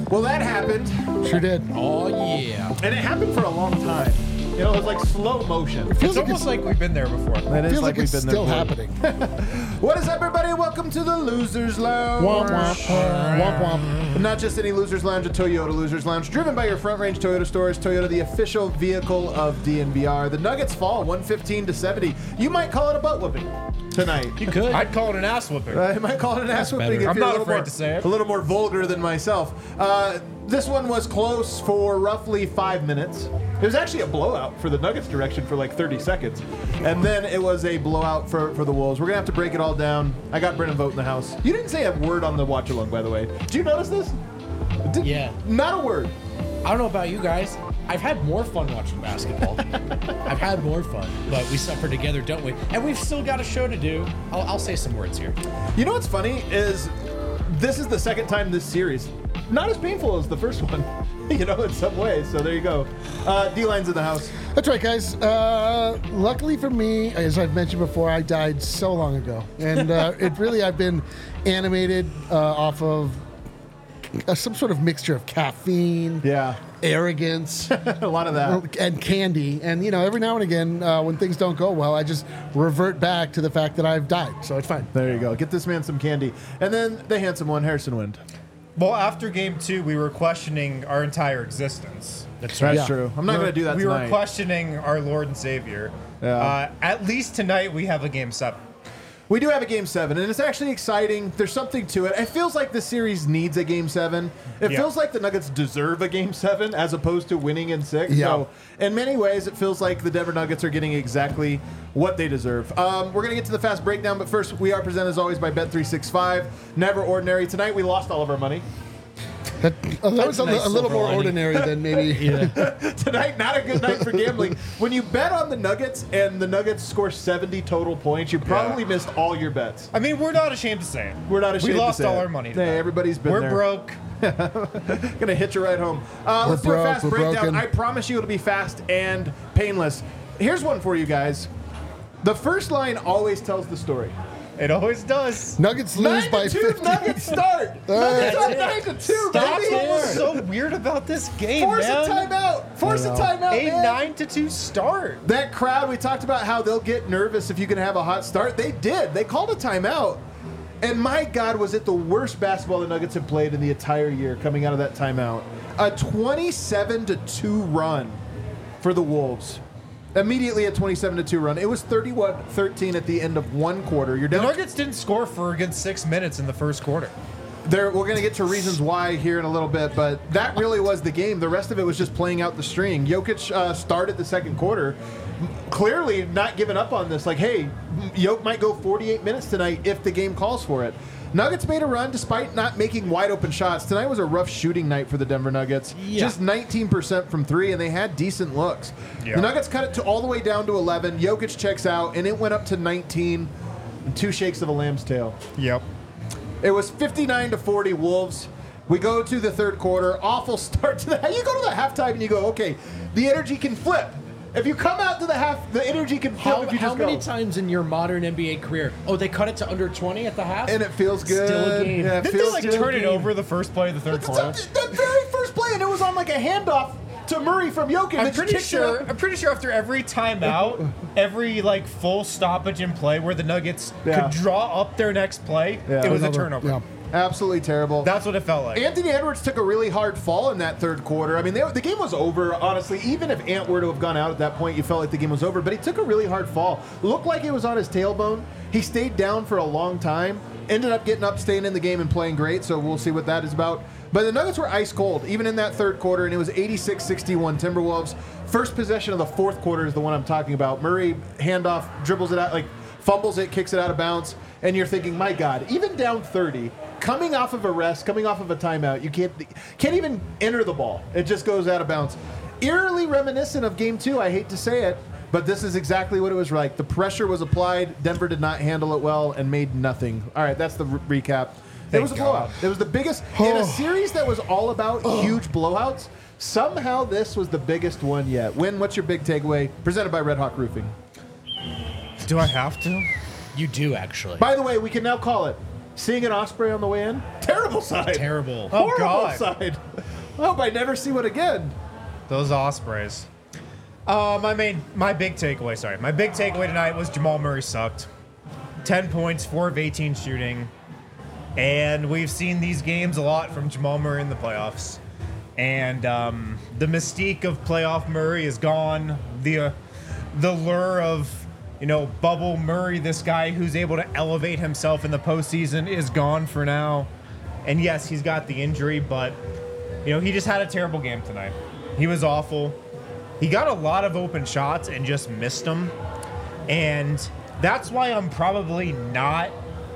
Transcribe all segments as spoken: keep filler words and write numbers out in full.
Well, that happened. Sure did. Oh, yeah. And it happened for a long time. You know, it was like slow motion. It's like almost like we've been there before. That is Feels like, we've it's been still there happening. What is up, everybody? Welcome to the Losers Lounge. Womp womp. Womp womp. Not just any Losers Lounge, a Toyota Losers Lounge, driven by your Front Range Toyota stores. Toyota, the official vehicle of D N V R. The Nuggets fall one fifteen to seventy. You might call it a butt whooping tonight. You could. I'd call it an ass whooping. I might call it an ass whooping. better. If I'm you're not a little afraid more, to say it. A little more vulgar than myself. Uh, this one was close for roughly five minutes. It was actually a blowout for the Nuggets direction for like thirty seconds. And then it was a blowout for, for the Wolves. We're going to have to break it all down. I got Brennan Vogt in the house. You didn't say a word on the watch along, by the way. Did you notice this? Did, Yeah. Not a word. I don't know about you guys. I've had more fun watching basketball. I've had more fun, but we suffer together, don't we? And we've still got a show to do. I'll, I'll say some words here. You know what's funny is this is the second time this series. Not as painful as the first one, you know, in some ways. So there you go. Uh, D-Line's in the house. That's right, guys. Uh, luckily for me, as I've mentioned before, I died so long ago. And uh, it really, I've been animated uh, off of uh, some sort of mixture of caffeine, Yeah. arrogance, A lot of that. and candy. And, you know, every now and again, uh, when things don't go well, I just revert back to the fact that I've died. So it's fine. There you go. Get this man some candy. And then the handsome one, Harrison Wind. Well, after game two, we were questioning our entire existence. That's That's Yeah. true. I'm not We going were- to do that We tonight. were questioning our Lord and Savior. Yeah. Uh, at least tonight, we have a game seven. We do have a game seven, and it's actually exciting. There's something to it. It feels like the series needs a game seven. It Yeah. feels like the Nuggets deserve a game seven as opposed to winning in six. Yeah. So, in many ways, it feels like the Denver Nuggets are getting exactly what they deserve. Um, we're going to get to the fast breakdown, but first, we are presented as always by Bet three sixty-five. Never ordinary. Tonight, we lost all of our money. That, uh, that was a, a nice li- a little silver more lining. ordinary than maybe. Tonight, not a good night for gambling. When you bet on the Nuggets and the Nuggets score seventy total points, you probably Yeah. missed all your bets. I mean, we're not ashamed to say it. We're not ashamed We lost to say all it. our money. Hey, tonight. everybody's been We're there. broke. Gonna hit you right home. Uh, We're let's do a broke, fast we're breakdown. broken. I promise you it'll be fast and painless. Here's one for you guys. The first line always tells the story. It always does. Nuggets lose Nine by to two, fifty. Nuggets start. Nuggets up nine to two, That's baby. what was so weird about this game, Force man. a timeout. Force a I know. timeout, A man. nine to two start. That crowd, we talked about how they'll get nervous if you can have a hot start. They did. They called a timeout. And my God, was it the worst basketball the Nuggets have played in the entire year coming out of that timeout. A twenty-seven to two run for the Wolves. Immediately a twenty-seven to two run. It was thirty-one thirteen at the end of one quarter. You're The down. Nuggets didn't score for a good six minutes in the first quarter. There, we're going to get to reasons why here in a little bit, but that really was the game. The rest of it was just playing out the string. Jokic uh, started the second quarter, clearly not giving up on this. Like, hey, Jokic might go forty-eight minutes tonight if the game calls for it. Nuggets made a run despite not making wide open shots. Tonight was a rough shooting night for the Denver Nuggets. Yeah. Just nineteen percent from three, and they had decent looks. Yeah. The Nuggets cut it to all the way down to eleven. Jokic checks out, and it went up to nineteen. And two shakes of a lamb's tail. Yep. It was fifty-nine to forty Wolves. We go to the third quarter. Awful start to the. You go to the halftime and you go, okay, the energy can flip. If you come out to the half, the energy can flip How, if you how just many go. times in your modern N B A career? Oh, they cut it to under twenty at the half? And it feels good. Still a game. Yeah, it Did they feels like good. turn it game. over the first play of the third It's quarter? up to- the very first play, and it was on like a handoff to Murray from Jokic. I'm that pretty kicked it sure. up. I'm pretty sure after every timeout, every like full stoppage in play where the Nuggets Yeah. could draw up their next play, Yeah. it was a Another- turnover. yeah. Absolutely terrible. That's what it felt like. Anthony Edwards took a really hard fall in that third quarter. I mean, they, the game was over, honestly. Even if Ant were to have gone out at that point, you felt like the game was over. But he took a really hard fall. Looked like it was on his tailbone. He stayed down for a long time. Ended up getting up, staying in the game, and playing great. So we'll see what that is about. But the Nuggets were ice cold, even in that third quarter, and it was eighty-six sixty-one Timberwolves. First possession of the fourth quarter is the one I'm talking about. Murray handoff, dribbles it out, like fumbles it, kicks it out of bounds. And you're thinking, my God, even down thirty, coming off of a rest, coming off of a timeout, you can't can't even enter the ball. It just goes out of bounds. Eerily reminiscent of game two, I hate to say it, but this is exactly what it was like. The pressure was applied. Denver did not handle it well and made nothing. All right, that's the re- recap. It Thank was a God. blowout. It was the biggest in a series that was all about huge blowouts. Somehow this was the biggest one yet. Win, what's your big takeaway? Presented by Red Hawk Roofing. Do I have to? You do, actually. By the way, we can now call it Seeing an Osprey on the way in, terrible side. Terrible. Oh, Horrible God. side. I hope I never see one again. Those Ospreys. Uh, my main, my big takeaway. Sorry, my big takeaway tonight was Jamal Murray sucked. Ten points, four of eighteen shooting, and we've seen these games a lot from Jamal Murray in the playoffs. And um, the mystique of playoff Murray is gone. The uh, the lure of you know bubble Murray, this guy who's able to elevate himself in the postseason, is gone for now. And yes, he's got the injury, but you know he just had a terrible game tonight. He was awful. He got a lot of open shots and just missed them. And that's why I'm probably not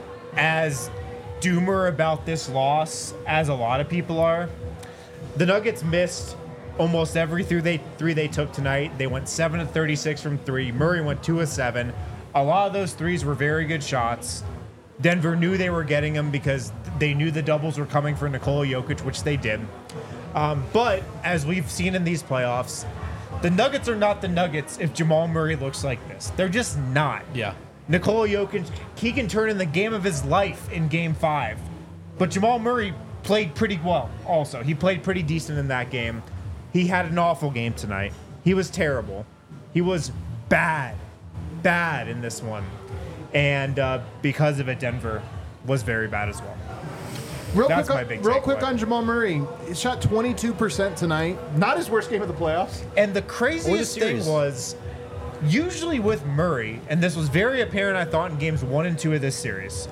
as doomer about this loss as a lot of people are. The Nuggets missed almost every three they, three they took tonight. They went seven of thirty-six from three. Murray went two of seven. A lot of those threes were very good shots. Denver knew they were getting them because they knew the doubles were coming for Nikola Jokic, which they did. Um, but as we've seen in these playoffs, the Nuggets are not the Nuggets if Jamal Murray looks like this. They're just not. Yeah. Nikola Jokic, he can turn in the game of his life in game five. But Jamal Murray played pretty well also. He played pretty decent in that game. He had an awful game tonight. He was terrible. He was bad, bad in this one. And uh, because of it, Denver was very bad as well. Real That's quick, my on, big real takeaway. quick on Jamal Murray. He shot twenty-two percent tonight. Not his worst game of the playoffs. And the craziest thing series. was, usually with Murray, and this was very apparent, I thought, in games one and two of this series,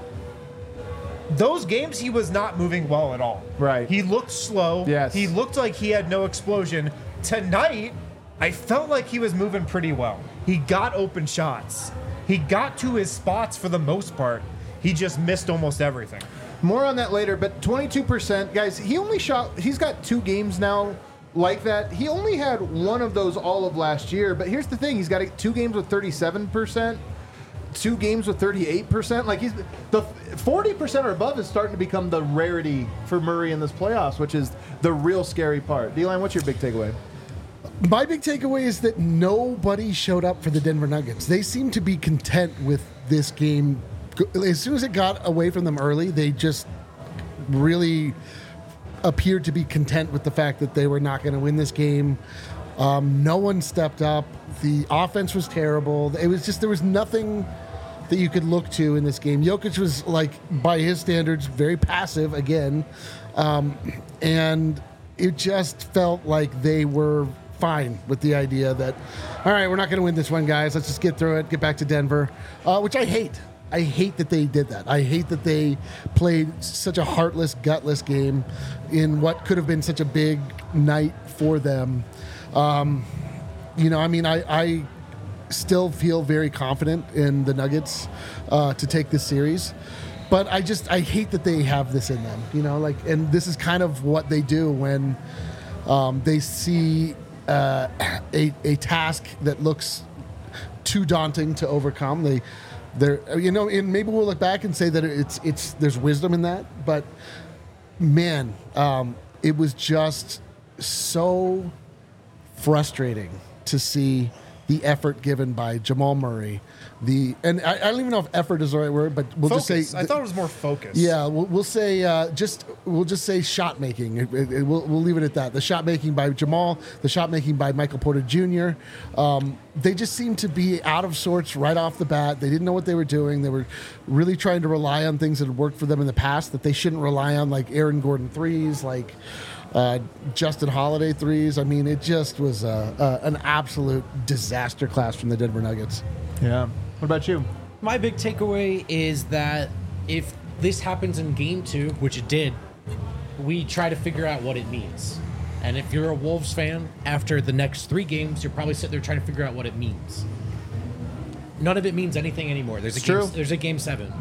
those games he was not moving well at all. Right. He looked slow. Yes. He looked like he had no explosion. Tonight, I felt like he was moving pretty well. He got open shots. He got to his spots for the most part. He just missed almost everything. More on that later, but twenty-two percent. Guys, he only shot, he's got two games now like that. He only had one of those all of last year, but here's the thing. He's got two games with thirty-seven percent, two games with thirty-eight percent. Like he's, the forty percent or above is starting to become the rarity for Murray in this playoffs, which is the real scary part. D-Line, what's your big takeaway? My big takeaway is that nobody showed up for the Denver Nuggets. They seem to be content with this game. As soon as it got away from them early, they just really appeared to be content with the fact that they were not going to win this game. Um, no one stepped up. The offense was terrible. It was just, there was nothing that you could look to in this game. Jokic was, like, by his standards, very passive again. Um, and it just felt like they were fine with the idea that, all right, we're not going to win this one, guys. Let's just get through it, get back to Denver, uh, which I hate. I hate that they did that. I hate that they played such a heartless, gutless game in what could have been such a big night for them. Um, you know, I mean, I, I still feel very confident in the Nuggets uh, to take this series. But I just, I hate that they have this in them, you know, like, and this is kind of what they do when um, they see uh, a, a task that looks too daunting to overcome. They, they're, you know, and maybe we'll look back and say that it's, it's, there's wisdom in that, but man, um, it was just so frustrating to see the effort given by Jamal Murray. The and I, I don't even know if effort is the right word, but we'll Focus. just say I thought it was more focus. Yeah, we'll, we'll say uh, just we'll just say shot making. It, it, it, we'll, we'll leave it at that. The shot making by Jamal, the shot making by Michael Porter Junior Um, they just seemed to be out of sorts right off the bat. They didn't know what they were doing. They were really trying to rely on things that had worked for them in the past that they shouldn't rely on, like Aaron Gordon threes, like uh, Justin Holiday threes. I mean, it just was uh, uh, an absolute disaster class from the Denver Nuggets. Yeah. What about you? My big takeaway is that if this happens in game two, which it did, we try to figure out what it means. And if you're a Wolves fan, after the next three games, you're probably sitting there trying to figure out what it means. None of it means anything anymore. There's a It's game, true. there's a game seven.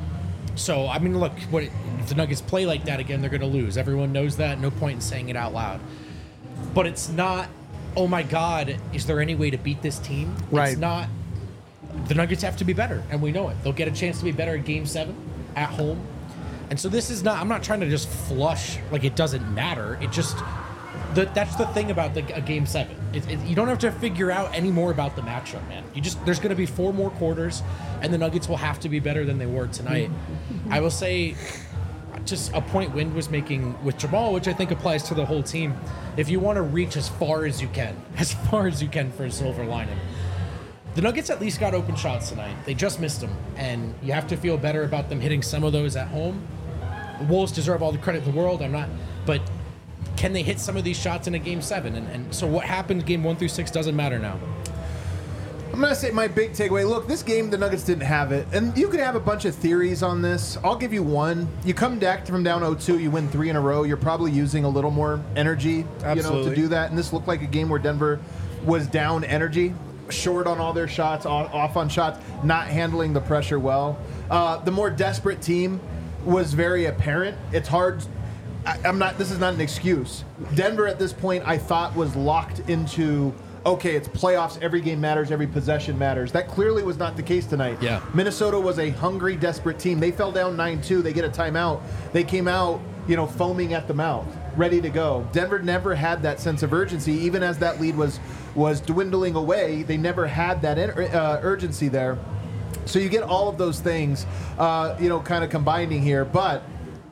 So, I mean, look, what, if the Nuggets play like that again, they're going to lose. Everyone knows that. No point in saying it out loud. But it's not, oh my God, is there any way to beat this team? Right. It's not. The Nuggets have to be better, and we know it. They'll get a chance to be better in Game seven at home. And so this is not, I'm not trying to just flush like it doesn't matter. It just, the, that's the thing about the a game seven. It, it, you don't have to figure out any more about the matchup, man. You just there's going to be four more quarters, and the Nuggets will have to be better than they were tonight. I will say, just a point Wind was making with Jamal, which I think applies to the whole team. If you want to reach as far as you can, as far as you can for a silver lining, the Nuggets at least got open shots tonight. They just missed them, and you have to feel better about them hitting some of those at home. The Wolves deserve all the credit in the world. I'm not, but can they hit some of these shots in a game seven? And, and so what happened game one through six doesn't matter now. I'm going to say my big takeaway. Look, this game, the Nuggets didn't have it. And you could have a bunch of theories on this. I'll give you one. You come back from down oh two, you win three in a row. You're probably using a little more energy, you know, to do that. And this looked like a game where Denver was down energy, short on all their shots, off on shots, not handling the pressure well. Uh, the more desperate team was very apparent. It's hard. I, I'm not. This is not an excuse. Denver at this point, I thought, was locked into, okay, it's playoffs. Every game matters. Every possession matters. That clearly was not the case tonight. Yeah. Minnesota was a hungry, desperate team. They fell down nine two. They get a timeout. They came out, you know, foaming at the mouth, ready to go. Denver never had that sense of urgency, even as that lead was was dwindling away. They never had that uh, urgency there. So you get all of those things, uh, you know, kind of combining here. But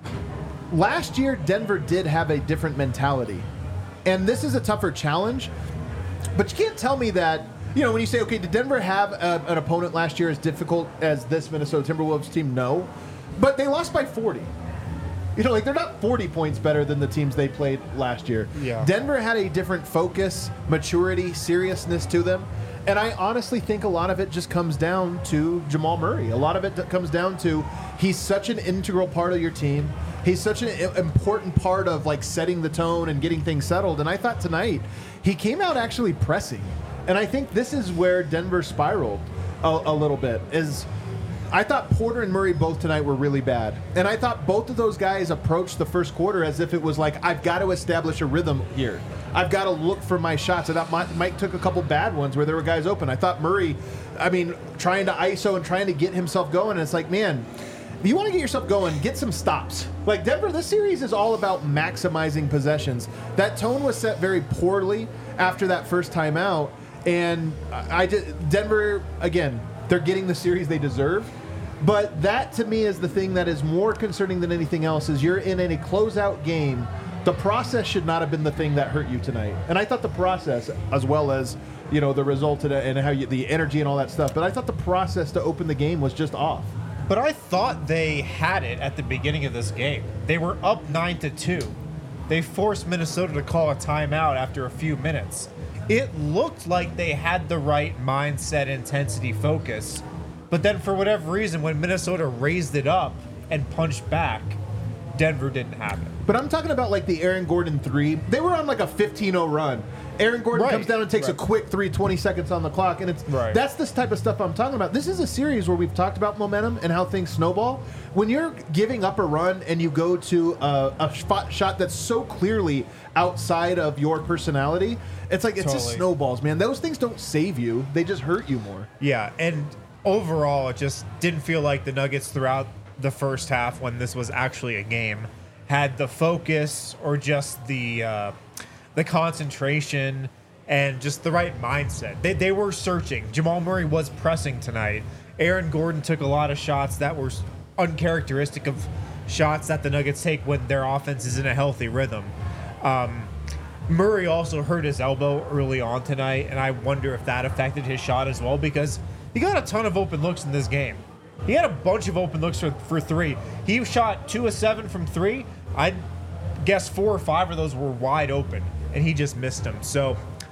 last year, Denver did have a different mentality. And this is a tougher challenge. But you can't tell me that, you know, when you say, okay, did Denver have a, an opponent last year as difficult as this Minnesota Timberwolves team? No. But they lost by forty. You know, like, they're not forty points better than the teams they played last year. Yeah. Denver had a different focus, maturity, seriousness to them. And I honestly think a lot of it just comes down to Jamal Murray. A lot of it comes down to he's such an integral part of your team. He's such an important part of, like, setting the tone and getting things settled. And I thought tonight he came out actually pressing. And I think this is where Denver spiraled a, a little bit. Is I thought Porter and Murray both tonight were really bad. And I thought both of those guys approached the first quarter as if it was like, I've got to establish a rhythm here. I've got to look for my shots. I thought Mike took a couple bad ones where there were guys open. I thought Murray, I mean, trying to I S O and trying to get himself going. And it's like, man, if you want to get yourself going, get some stops. Like, Denver, this series is all about maximizing possessions. That tone was set very poorly after that first timeout. And I just, Denver, again, they're getting the series they deserve. But that, to me, is the thing that is more concerning than anything else, is you're in a closeout game. The process should not have been the thing that hurt you tonight. And I thought the process, as well as, you know, the result and how you, the energy and all that stuff, but I thought the process to open the game was just off. But I thought they had it at the beginning of this game. They were up nine to two. They forced Minnesota to call a timeout after a few minutes. It looked like they had the right mindset, intensity, focus. But then for whatever reason, when Minnesota raised it up and punched back, Denver didn't have it. But I'm talking about, like, the Aaron Gordon three. They were on like a fifteen oh run. Aaron Gordon Right. comes down and takes Right. a quick three, twenty seconds on the clock. And it's Right. that's this type of stuff I'm talking about. This is a series where we've talked about momentum and how things snowball. When you're giving up a run and you go to a, a spot, shot that's so clearly outside of your personality, it's like, it's just Totally. snowballs, man. Those things don't save you. They just hurt you more. Yeah, and overall, it just didn't feel like the Nuggets throughout the first half, when this was actually a game, had the focus or just the uh, the concentration and just the right mindset. They, they were searching. Jamal Murray was pressing tonight. Aaron Gordon took a lot of shots that were uncharacteristic of shots that the Nuggets take when their offense is in a healthy rhythm. Um, Murray also hurt his elbow early on tonight, and I wonder if that affected his shot as well, because he got a ton of open looks in this game. He had a bunch of open looks for, for three. He shot two of seven from three. I'd guess four or five of those were wide open, and he just missed them. So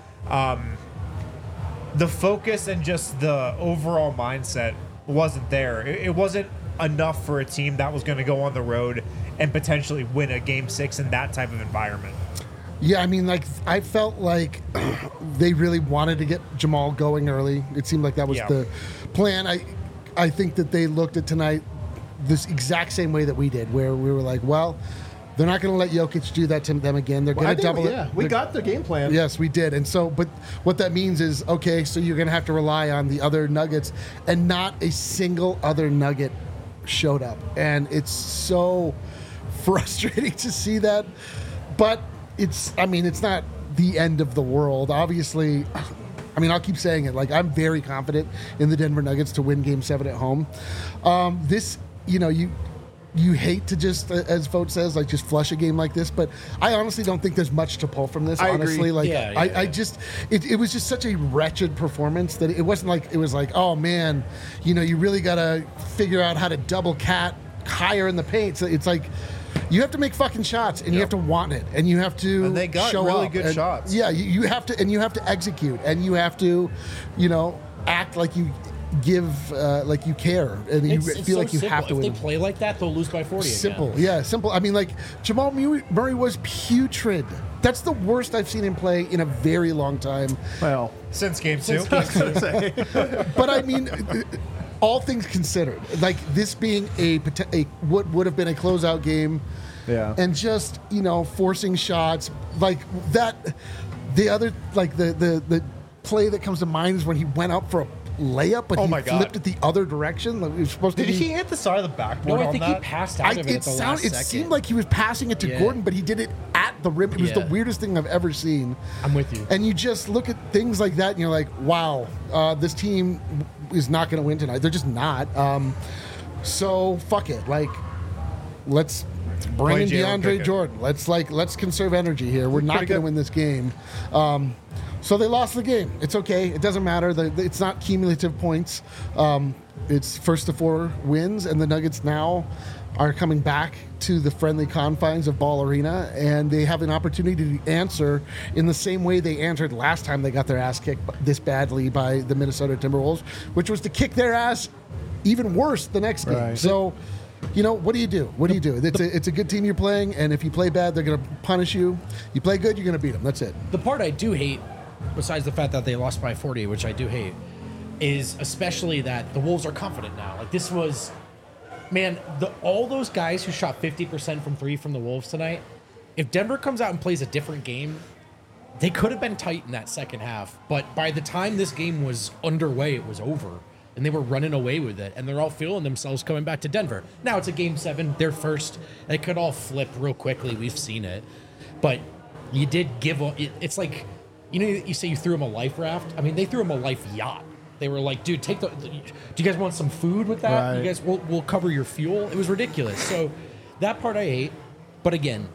um, the focus and just the overall mindset wasn't there. It, it wasn't enough for a team that was going to go on the road and potentially win a game six in that type of environment. Yeah, I mean, like, I felt like they really wanted to get Jamal going early. It seemed like that was Yeah. the plan. I I think that they looked at tonight this exact same way that we did, where we were like, well, they're not going to let Jokic do that to them again. They're Well, I going to think, double yeah, it. we They're- got the game plan. Yes, we did. And so, but what that means is, okay, so you're going to have to rely on the other Nuggets, and not a single other Nugget showed up. And it's so frustrating to see that. But it's. I mean, it's not the end of the world. Obviously, I mean, I'll keep saying it. Like, I'm very confident in the Denver Nuggets to win Game Seven at home. Um, this, you know, you. You hate to just, as Vogt says, like just flush a game like this, but I honestly don't think there's much to pull from this. I honestly, agree. like Yeah, I, yeah, I yeah. just, it, it was just such a wretched performance that it wasn't like it was like, oh man, you know, you really gotta figure out how to double cat higher in the paint. So it's like you have to make fucking shots, and you have to want it, and you have to And they got show really up. good And, shots. Yeah, you, you have to, and you have to execute, and you have to, you know, act like you give, uh, like you care, and you It's, it's feel so like you simple. have to If win. they play like that, they'll lose by forty. Simple, Again. yeah, simple. I mean, like Jamal Mu- Murray was putrid. That's the worst I've seen him play in a very long time. Well, Since game two. But I mean, all things considered, like this being a, pot- a what would have been a closeout game, Yeah. and just you know forcing shots like that. The other like the the the play that comes to mind is when he went up for a layup, but Oh he my God. flipped it the other direction. Like, it was supposed Did to be. he hit the side of the backboard No, I on think he that? passed out I, of it, it at the sound, last it second. seemed like he was passing it to Yeah. Gordon, but he did it at the rim. It was the Yeah. weirdest thing I've ever seen. I'm with you. And you just look at things like that, and you're like, "Wow, uh, this team is not going to win tonight. They're just not." Um, so fuck it. Like, let's bring Play in Jalen DeAndre Pickett. Jordan. Let's like let's conserve energy here. We're not Pretty going to good. win this game. Um, so they lost the game. It's okay. It doesn't matter. The, the- it's not cumulative points. Um, it's first to four wins, and the Nuggets now are coming back to the friendly confines of Ball Arena, and they have an opportunity to answer in the same way they answered last time they got their ass kicked this badly by the Minnesota Timberwolves, which was to kick their ass even worse the next game. Right. So, you know, what do you do? What do you do? It's a, it's a good team you're playing, and if you play bad, they're going to punish you. You play good, you're going to beat them. That's it. The part I do hate, besides the fact that they lost by forty, which I do hate, is especially that the Wolves are confident now. Like this was, man, the all those guys who shot fifty percent from three from the Wolves tonight, if Denver comes out and plays a different game, they could have been tight in that second half. But by the time this game was underway, it was over. And they were running away with it. And they're all feeling themselves coming back to Denver. Now it's a game seven. They're first. It could all flip real quickly. We've seen it. But you did give a, it, it's like, you know, you say you threw him a life raft. I mean, they threw him a life yacht. They were like, dude, take the, do you guys want some food with that? Right. You guys, we'll, we'll cover your fuel. It was ridiculous. So that part I hate. But again,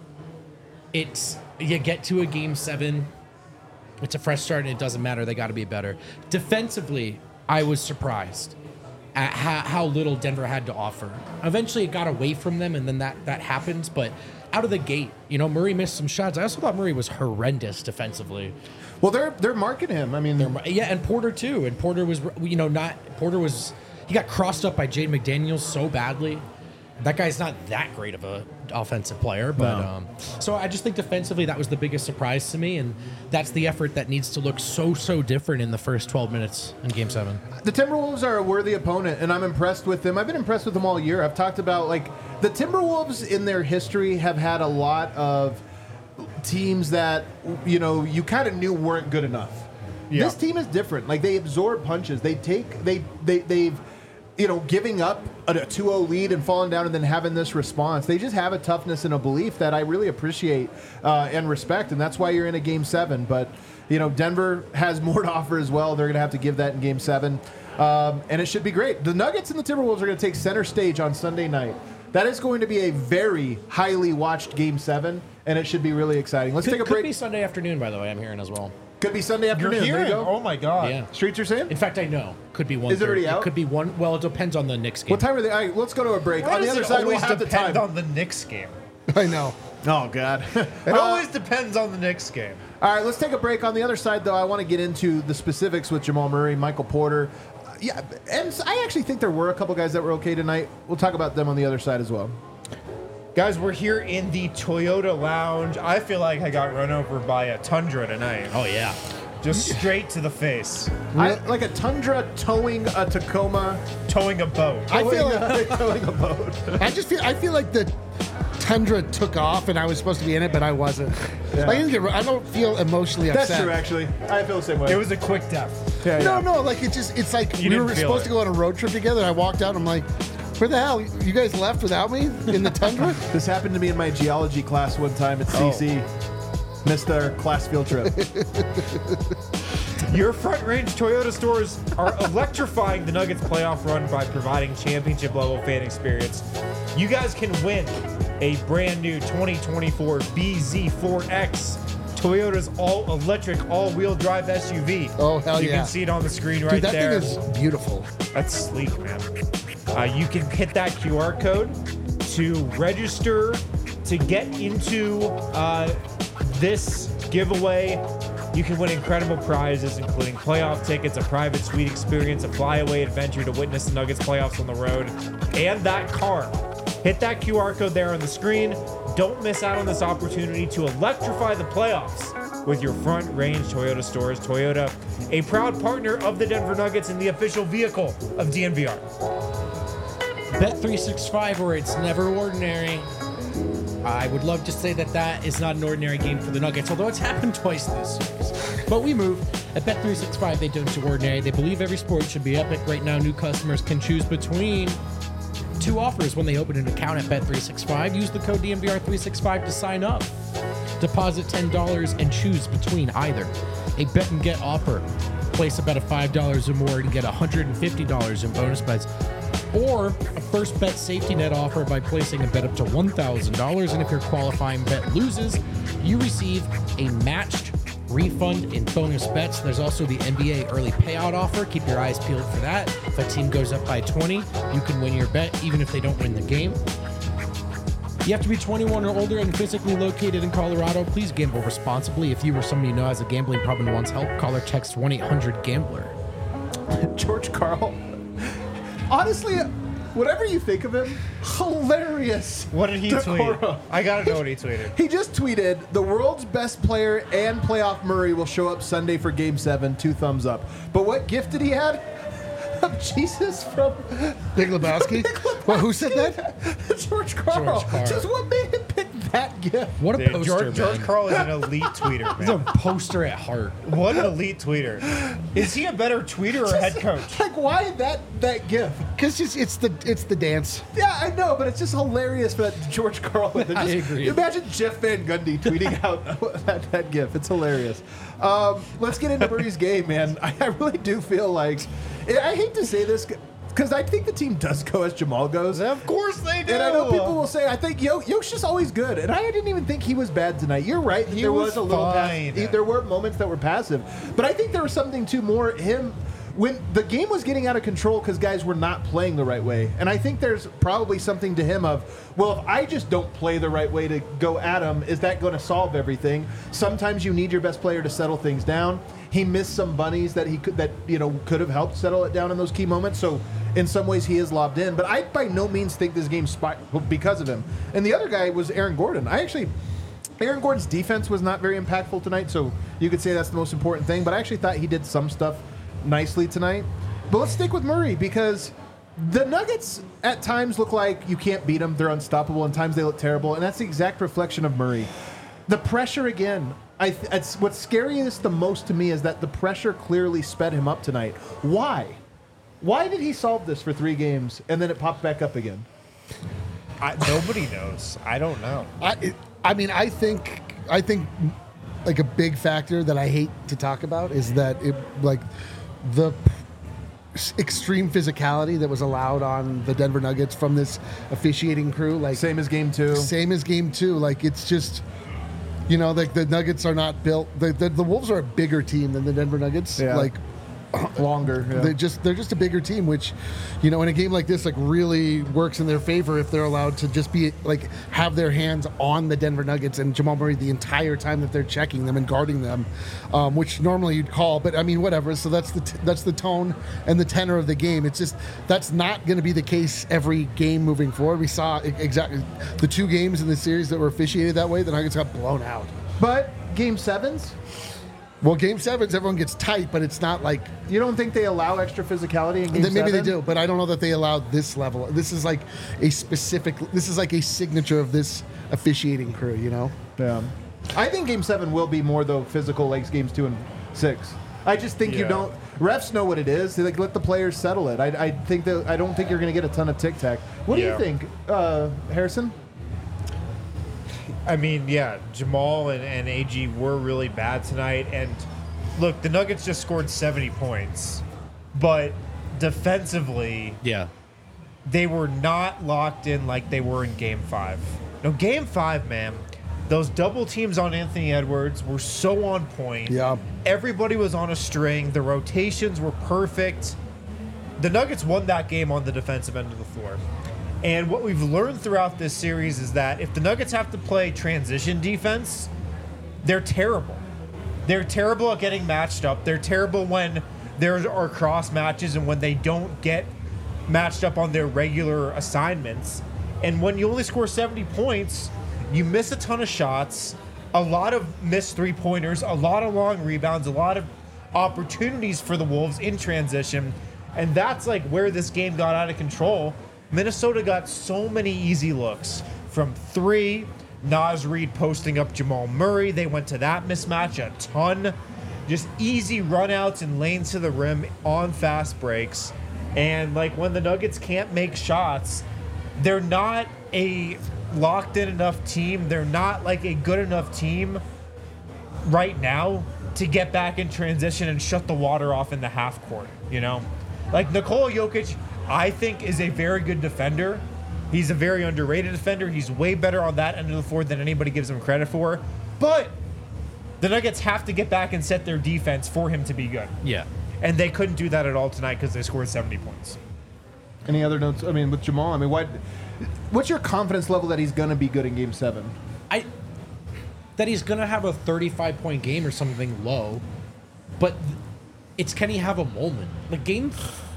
it's, you get to a game seven. It's a fresh start, and it doesn't matter. They got to be better. Defensively, I was surprised at how, how little Denver had to offer. Eventually, it got away from them, and then that, that happens. But out of the gate, you know, Murray missed some shots. I also thought Murray was horrendous defensively. well, they're they're marking him. I mean, Yeah, and Porter too. And Porter was, you know, not Porter was. He got crossed up by Jaden McDaniels so badly. That guy's not that great of a offensive player, but No. um, so I just think defensively that was the biggest surprise to me, and that's the effort that needs to look so so different in the first twelve minutes in Game Seven. the Timberwolves are a worthy opponent, and I'm impressed with them. I've been impressed with them all year. I've talked about, like, the Timberwolves in their history have had a lot of teams that, you know, you kind of knew weren't good enough. Yeah. This team is different. Like, they absorb punches. They take, they, they, they've, you know, giving up a two oh lead and falling down and then having this response. They just have a toughness and a belief that I really appreciate uh, and respect, and that's why you're in a game seven. But, you know, Denver has more to offer as well. They're going to have to give that in game seven, um, and it should be great. The Nuggets and the Timberwolves are going to take center stage on Sunday night. That is going to be a very highly watched game seven, and it should be really exciting. Let's Could, take a could break. be Sunday afternoon, by the way. I'm hearing as well. Could be Sunday You're afternoon. There hearing? you go. Oh my god. Yeah. Streets are saying? In fact, I know. Could be one. Is it already out? It could be one. Well, it depends on the Knicks game. What time are they? All right, let's go to a break. Why on the does other it side, we'll always have the depend time. on the Knicks game? I know. Oh, God. It always depends on the Knicks game. All right, let's take a break. On the other side, though, I want to get into the specifics with Jamal Murray, Michael Porter. Uh, yeah, and I actually think there were a couple guys that were okay tonight. We'll talk about them on the other side as well. Guys, we're here in the Toyota Lounge. I feel like I got run over by a Tundra tonight. Oh yeah. Just straight to the face. I, like a Tundra towing a Tacoma. Towing a boat. I feel Towing like a- towing a boat. I just feel I feel like the Tundra took off and I was supposed to be in it, but I wasn't. Yeah. I, didn't get, I don't feel emotionally That's upset. true, actually. I feel the same way. It was a quick death. yeah, No, yeah. no, like it just it's like You we didn't were feel supposed it. to go on a road trip together. And I walked out and I'm like, where the hell? You guys left without me in the Tundra? This happened to me in my geology class one time at C C. Missed our class field trip. Your Front Range Toyota stores are electrifying the Nuggets playoff run by providing championship level fan experience. You guys can win a brand new twenty twenty-four B Z four X, Toyota's all-electric, all-wheel drive S U V. Oh, hell you yeah. can see it on the screen right Dude, that there. thing is beautiful. That's sleek, man. Uh, you can hit that Q R code to register to get into uh, this giveaway. You can win incredible prizes, including playoff tickets, a private suite experience, a flyaway adventure to witness the Nuggets playoffs on the road, and that car. Hit that Q R code there on the screen. Don't miss out on this opportunity to electrify the playoffs with your Front Range Toyota stores. Toyota, a proud partner of the Denver Nuggets and the official vehicle of D N V R. Bet three sixty-five, where it's never ordinary. I would love to say that that is not an ordinary game for the Nuggets, although it's happened twice this series. But we move. At Bet three sixty-five, they don't do ordinary. They believe every sport should be epic. Right now, new customers can choose between two offers when they open an account at Bet three sixty-five. Use the code D N V R three sixty-five to sign up. Deposit ten dollars and choose between either a bet and get offer. Place a bet of five dollars or more and get one hundred fifty dollars in bonus bets. Or a first bet safety net offer by placing a bet up to one thousand dollars. And if your qualifying bet loses, you receive a matched refund in bonus bets. There's also the N B A early payout offer. Keep your eyes peeled for that. If a team goes up by twenty, you can win your bet even if they don't win the game. You have to be twenty-one or older and physically located in Colorado. Please gamble responsibly. If you or somebody you know has a gambling problem and wants help, call or text one eight hundred gambler. George Karl. Honestly, whatever you think of him, hilarious. What did he decoro. tweet? I gotta know what he tweeted. He just tweeted, the world's best player and playoff Murray will show up Sunday for game seven, two thumbs up. But what gift did he add? Of Jesus from Big Lebowski? Well, who said that? George Karl. George Karl. Just what made him pick that gift? What a Dude, poster, George, man. George Karl is an elite tweeter, He's a man. poster at heart. What an elite tweeter. Is he a better tweeter or head coach? Like, why that that gift? Because it's, it's the it's the dance. Yeah, I know, but it's just hilarious for that George Karl. Just, I agree. Imagine Jeff Van Gundy tweeting out that, that gif. It's hilarious. Um, let's get into Murray's game, man. I, I really do feel like, I hate to say this, because I think the team does go as Jamal goes. Of course they do. And I know people will say, I think Yo- Yoke's just always good. And I didn't even think he was bad tonight. You're right. He there was, was a little fine. pass- There were moments that were passive. But I think there was something to more him when the game was getting out of control because guys were not playing the right way. And I think there's probably something to him of, well, if I just don't play the right way to go at him, is that going to solve everything? Sometimes you need your best player to settle things down. He missed some bunnies that he could that you know could have helped settle it down in those key moments. So in some ways he is lobbed in, but I by no means think this game spot because of him. And the other guy was Aaron Gordon. I actually Aaron Gordon's defense was not very impactful tonight, so you could say that's the most important thing. But I actually thought he did some stuff nicely tonight. But let's stick with Murray because the Nuggets at times look like you can't beat them. They're unstoppable, and times they look terrible, and that's the exact reflection of Murray. The pressure again. I th- it's, what's scariest the most to me is that the pressure clearly sped him up tonight. Why? Why did he solve this for three games and then it popped back up again? I, nobody knows. I don't know. I it, I mean, I think I think like a big factor that I hate to talk about is that it like the extreme physicality that was allowed on the Denver Nuggets from this officiating crew. Like Same as game two. Same as game two. Like it's just, you know, like the Nuggets are not built. The, the, the Wolves are a bigger team than the Denver Nuggets. Yeah. Like Longer. Yeah. they just they're just a bigger team, which, you know, in a game like this, like really works in their favor if they're allowed to just be like have their hands on the Denver Nuggets and Jamal Murray the entire time that they're checking them and guarding them, um, which normally you'd call. But I mean, whatever. So that's the t- that's the tone and the tenor of the game. It's just that's not going to be the case every game moving forward. We saw e- exactly the two games in the series that were officiated that way. The Nuggets got blown out. But game sevens, Well, game sevens, everyone gets tight, but it's not like you don't think they allow extra physicality in game then maybe seven? they do, but I don't know that they allowed this level. This is like a specific. This is like a signature of this officiating crew. You know. Yeah. I think game seven will be more though physical like games two and six. I just think you Yeah. don't. Refs know what it is. They like let the players settle it. I, I think that I don't think you're going to get a ton of tic tac. What do Yeah. you think, uh, Harrison? I mean, yeah, Jamal and, and A G were really bad tonight. And look, the Nuggets just scored seventy points, but defensively, Yeah. they were not locked in like they were in game five. No, game five, man, those double teams on Anthony Edwards were so on point. Yeah. Everybody was on a string. The rotations were perfect. The Nuggets won that game on the defensive end of the floor. And what we've learned throughout this series is that if the Nuggets have to play transition defense, they're terrible. They're terrible at getting matched up. They're terrible when there are cross matches and when they don't get matched up on their regular assignments. And when you only score seventy points, you miss a ton of shots, a lot of missed three-pointers, a lot of long rebounds, a lot of opportunities for the Wolves in transition. And that's like where this game got out of control. Minnesota got so many easy looks from three. Naz Reid posting up Jamal Murray. They went to that mismatch a ton. Just easy runouts and lanes to the rim on fast breaks. And like when the Nuggets can't make shots, they're not a locked in enough team. They're not like a good enough team right now to get back in transition and shut the water off in the half court, you know? Like Nikola Jokic, I think, is a very good defender. He's a very underrated defender. He's way better on that end of the floor than anybody gives him credit for. But the Nuggets have to get back and set their defense for him to be good. Yeah. And they couldn't do that at all tonight because they scored seventy points. Any other notes? I mean, with Jamal, I mean, what? What's your confidence level that he's going to be good in Game Seven? I that he's gonna have a thirty-five point game or something low, but it's can he have a moment like game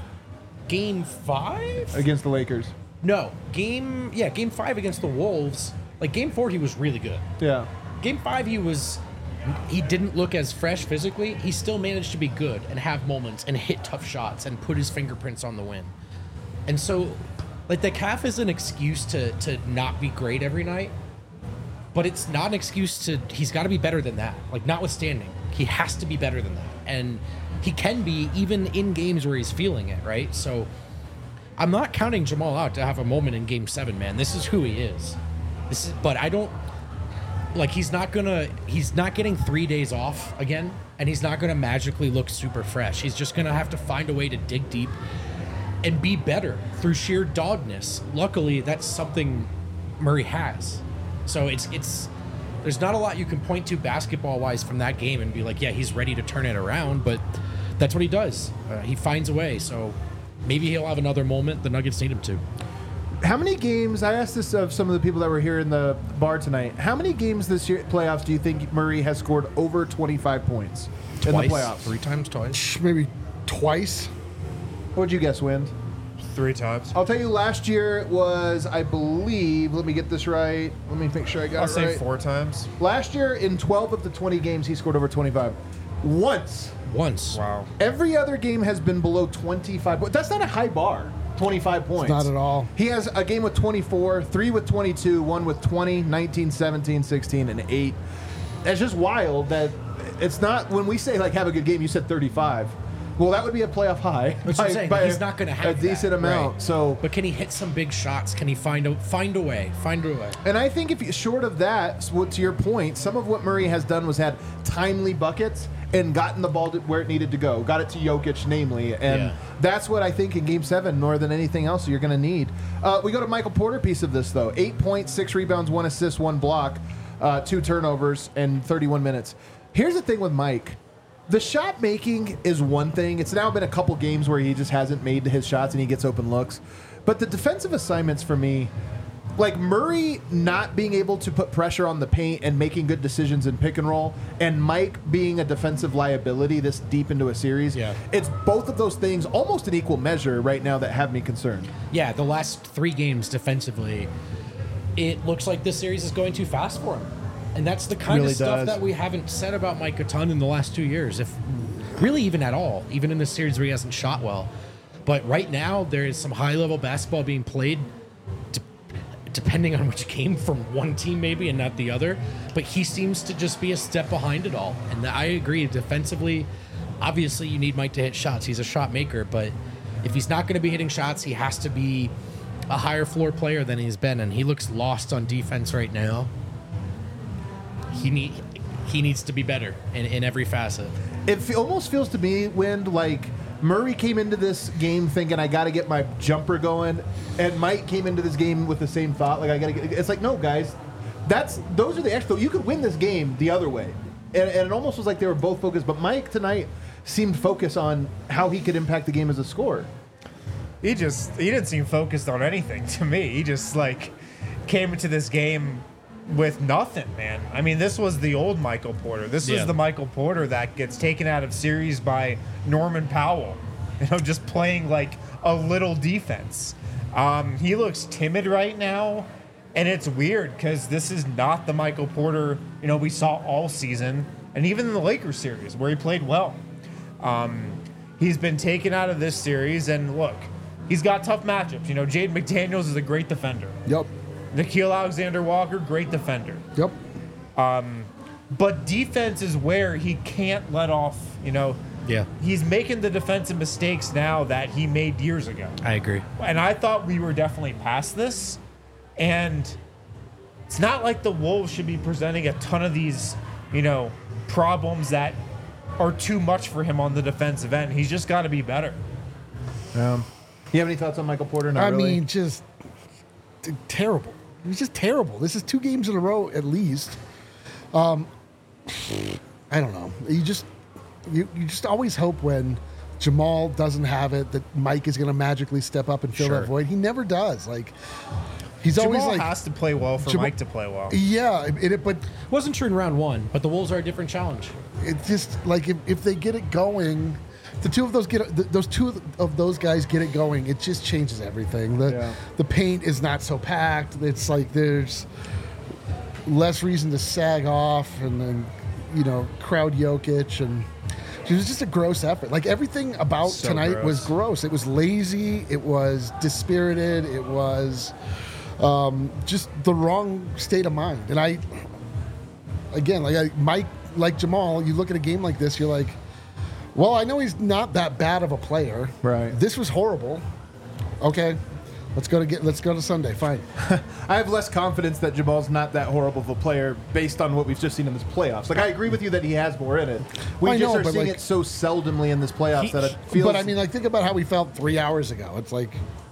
game five Against the Lakers. No, game yeah game five against the Wolves. Like game four, he was really good. Yeah. Game five, he was he didn't look as fresh physically. He still managed to be good and have moments and hit tough shots and put his fingerprints on the win. And so, like the calf is an excuse to to not be great every night. But it's not an excuse to, he's got to be better than that. Like, notwithstanding, he has to be better than that. And he can be even in games where he's feeling it, right? So I'm not counting Jamal out to have a moment in game seven, man. This is who he is. This is, but I don't, like, he's not going to, he's not getting three days off again, and he's not going to magically look super fresh. He's just going to have to find a way to dig deep and be better through sheer dogness. Luckily, that's something Murray has. So it's it's there's not a lot you can point to basketball wise from that game and be like, yeah, he's ready to turn it around, but that's what he does. Uh, he finds a way. So maybe he'll have another moment. The Nuggets need him to. How many games? I asked this of some of the people that were here in the bar tonight. How many games this year playoffs do you think Murray has scored over twenty-five points in Twice, the playoffs? three times, twice. Maybe twice. What'd you guess, Wind? Three times. I'll tell you, last year it was, I believe, let me get this right. Let me make sure I got I'll it say right. four times. Last year, in twelve of the twenty games, he scored over twenty-five. Once. Once. Wow. Every other game has been below twenty-five points. That's not a high bar, twenty-five points. Not at all. He has a game with twenty-four, three with twenty-two, one with twenty, nineteen, seventeen, sixteen, and eight. It's just wild that it's not, when we say, like, have a good game, you said thirty-five. Well, that would be a playoff high. That's what I'm saying. He's not going to have a decent that, amount. right. So, but can he hit some big shots? Can he find a find a way? Find a way. and I think if you, short of that, so to your point, some of what Murray has done was had timely buckets and gotten the ball to where it needed to go. Got it to Jokic, namely, and Yeah. that's what I think in Game Seven, more than anything else, you're going to need. Uh, we go to Michael Porter piece of this though: eight points, six rebounds, one assist, one block, uh, two turnovers, and thirty-one minutes. Here's the thing with Mike. The shot making is one thing. It's now been a couple games where he just hasn't made his shots and he gets open looks. But the defensive assignments for me, like Murray not being able to put pressure on the paint and making good decisions in pick and roll, and Mike being a defensive liability this deep into a series, Yeah. it's both of those things almost in equal measure right now that have me concerned. Yeah, the last three games defensively, it looks like this series is going too fast for him. And that's the kind Really of stuff does. that we haven't said about Mike a ton in the last two years, if really even at all, even in this series where he hasn't shot well. But right now, there is some high-level basketball being played, de- depending on which game from one team maybe and not the other. But he seems to just be a step behind it all. And I agree, defensively, obviously you need Mike to hit shots. He's a shot maker, but if he's not going to be hitting shots, he has to be a higher floor player than he's been. And he looks lost on defense right now. he need he needs to be better in, in every facet. It fe- almost feels to me, Wind, like Murray came into this game thinking I got to get my jumper going, and Mike came into this game with the same thought, like I got to get. It's like, no, guys, that's those are the extra. You could win this game the other way, and, and it almost was like they were both focused. But Mike tonight seemed focused on how he could impact the game as a scorer. He just he didn't seem focused on anything to me. He just like came into this game with nothing, man. I mean, this was the old Michael Porter. This Yeah. is the Michael Porter that gets taken out of series by Norman Powell. You know, just playing like a little defense. Um, he looks timid right now, and it's weird because this is not the Michael Porter, you know, we saw all season, and even in the Lakers series where he played well. Um, he's been taken out of this series, and look, he's got tough matchups. You know, Jaden McDaniels is a great defender. Yep. Nikhil Alexander-Walker, great defender. Yep. But defense is where he can't let off, you know. Yeah, He's making the defensive mistakes now that he made years ago. I agree. And I thought we were definitely past this. And it's not like the Wolves should be presenting a ton of these, you know, problems that are too much for him on the defensive end. He's just got to be better. Um, you have any thoughts on Michael Porter? Not I really? mean, just t- terrible. He's just terrible. This is two games in a row at least. Um, I don't know. You just you, you just always hope when Jamal doesn't have it that Mike is going to magically step up and fill Sure. that void. He never does. Like he's always Jamal like, has to play well for Jamal- Mike to play well. yeah, it, it, but Wasn't true in round one, but the Wolves are a different challenge. it's just like if, if they get it going, the two of those get th- those two of those guys get it going, it just changes everything. The Yeah. the paint is not so packed. It's like there's less reason to sag off and then you know crowd Jokic, and it was just a gross effort. Like everything about So tonight was gross. gross. It was lazy. It was dispirited. It was um, just the wrong state of mind. And I, again, like I, Mike, like Jamal, you look at a game like this, you're like, well, I know he's not that bad of a player. Right. This was horrible. Okay, let's go to get. Let's go to Sunday. Fine. I have less confidence that Jamal's not that horrible of a player based on what we've just seen in this playoffs. Like, I agree with you that he has more in it. We I just know, are but, seeing like- it so seldomly in this playoffs He- that it feels. But I mean, like, think about how we felt three hours ago. It's like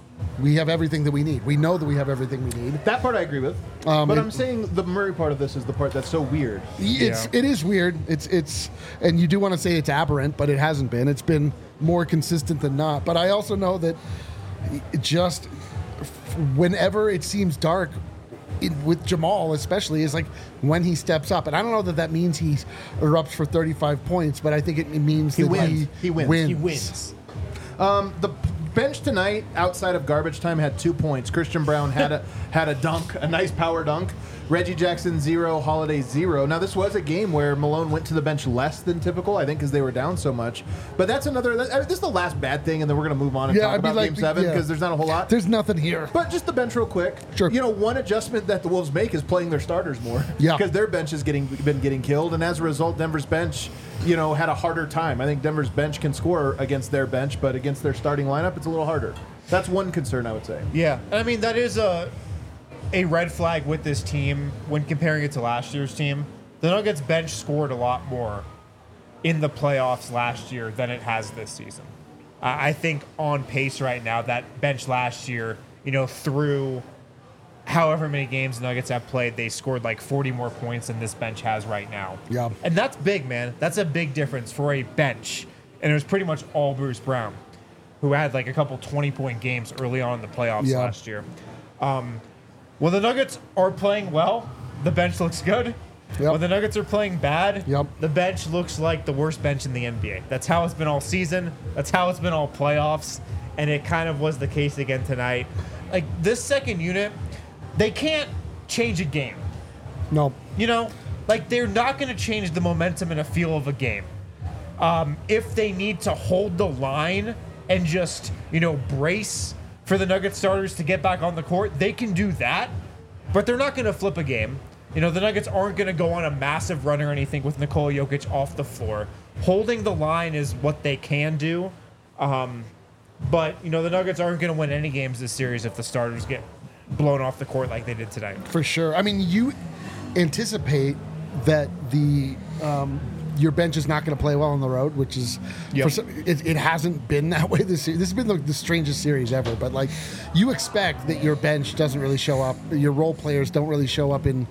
we have everything that we need. We know that we have everything we need. that part I agree with. Um, but it- I'm saying the Murray part of this is the part that's so weird. It's Yeah. it is weird. It's it's and you do want to say it's aberrant, but it hasn't been. It's been more consistent than not. But I also know that it just whenever it seems dark in, with Jamal, especially, is like when he steps up. And I don't know that that means he erupts for thirty-five points, but I think it means He that wins. he, He wins. wins. He wins. The bench tonight, outside of garbage time, had two points. Christian Brown had a had a dunk, a nice power dunk. Reggie Jackson zero, Holiday zero. Now this was a game where Malone went to the bench less than typical, I think, because they were down so much. But that's another. That, I mean, this is the last bad thing, and then we're gonna move on and Yeah, talk I'd be about like, Game Seven yeah. because there's not a whole lot. There's nothing here. But just the bench real quick. Sure. You know, one adjustment that the Wolves make is playing their starters more. Yeah. Because their bench has getting been getting killed, and as a result, Denver's bench, you know, had a harder time. I think Denver's bench can score against their bench, but against their starting lineup, it's a little harder. That's one concern, I would say. Yeah, and I mean that is a a red flag with this team when comparing it to last year's team. The Nuggets bench scored a lot more in the playoffs last year than it has this season. I I think on pace right now, that bench last year, you know, through however many games the Nuggets have played, they scored like forty more points than this bench has right now. Yeah. And that's big, man. That's a big difference for a bench. And it was pretty much all Bruce Brown, who had like a couple twenty-point games early on in the playoffs Yeah. last year. Um, when the Nuggets are playing well, the bench looks good. Yep. When the Nuggets are playing bad, Yep. the bench looks like the worst bench in the N B A. That's how it's been all season. That's how it's been all playoffs. And it kind of was the case again tonight. Like this second unit, they can't change a game. No. You know, like they're not going to change the momentum and a feel of a game. Um, if they need to hold the line and just, you know, brace for the Nuggets starters to get back on the court, they can do that, but they're not going to flip a game. You know, the Nuggets aren't going to go on a massive run or anything with Nikola Jokic off the floor. Holding the line is what they can do. Um, but, you know, the Nuggets aren't going to win any games this series if the starters get blown off the court like they did tonight. For sure. I mean, you anticipate that the um, your bench is not going to play well on the road, which is Yep. for some, it, it hasn't been that way this series. This has been the, the strangest series ever. But like, you expect that your bench doesn't really show up, your role players don't really show up in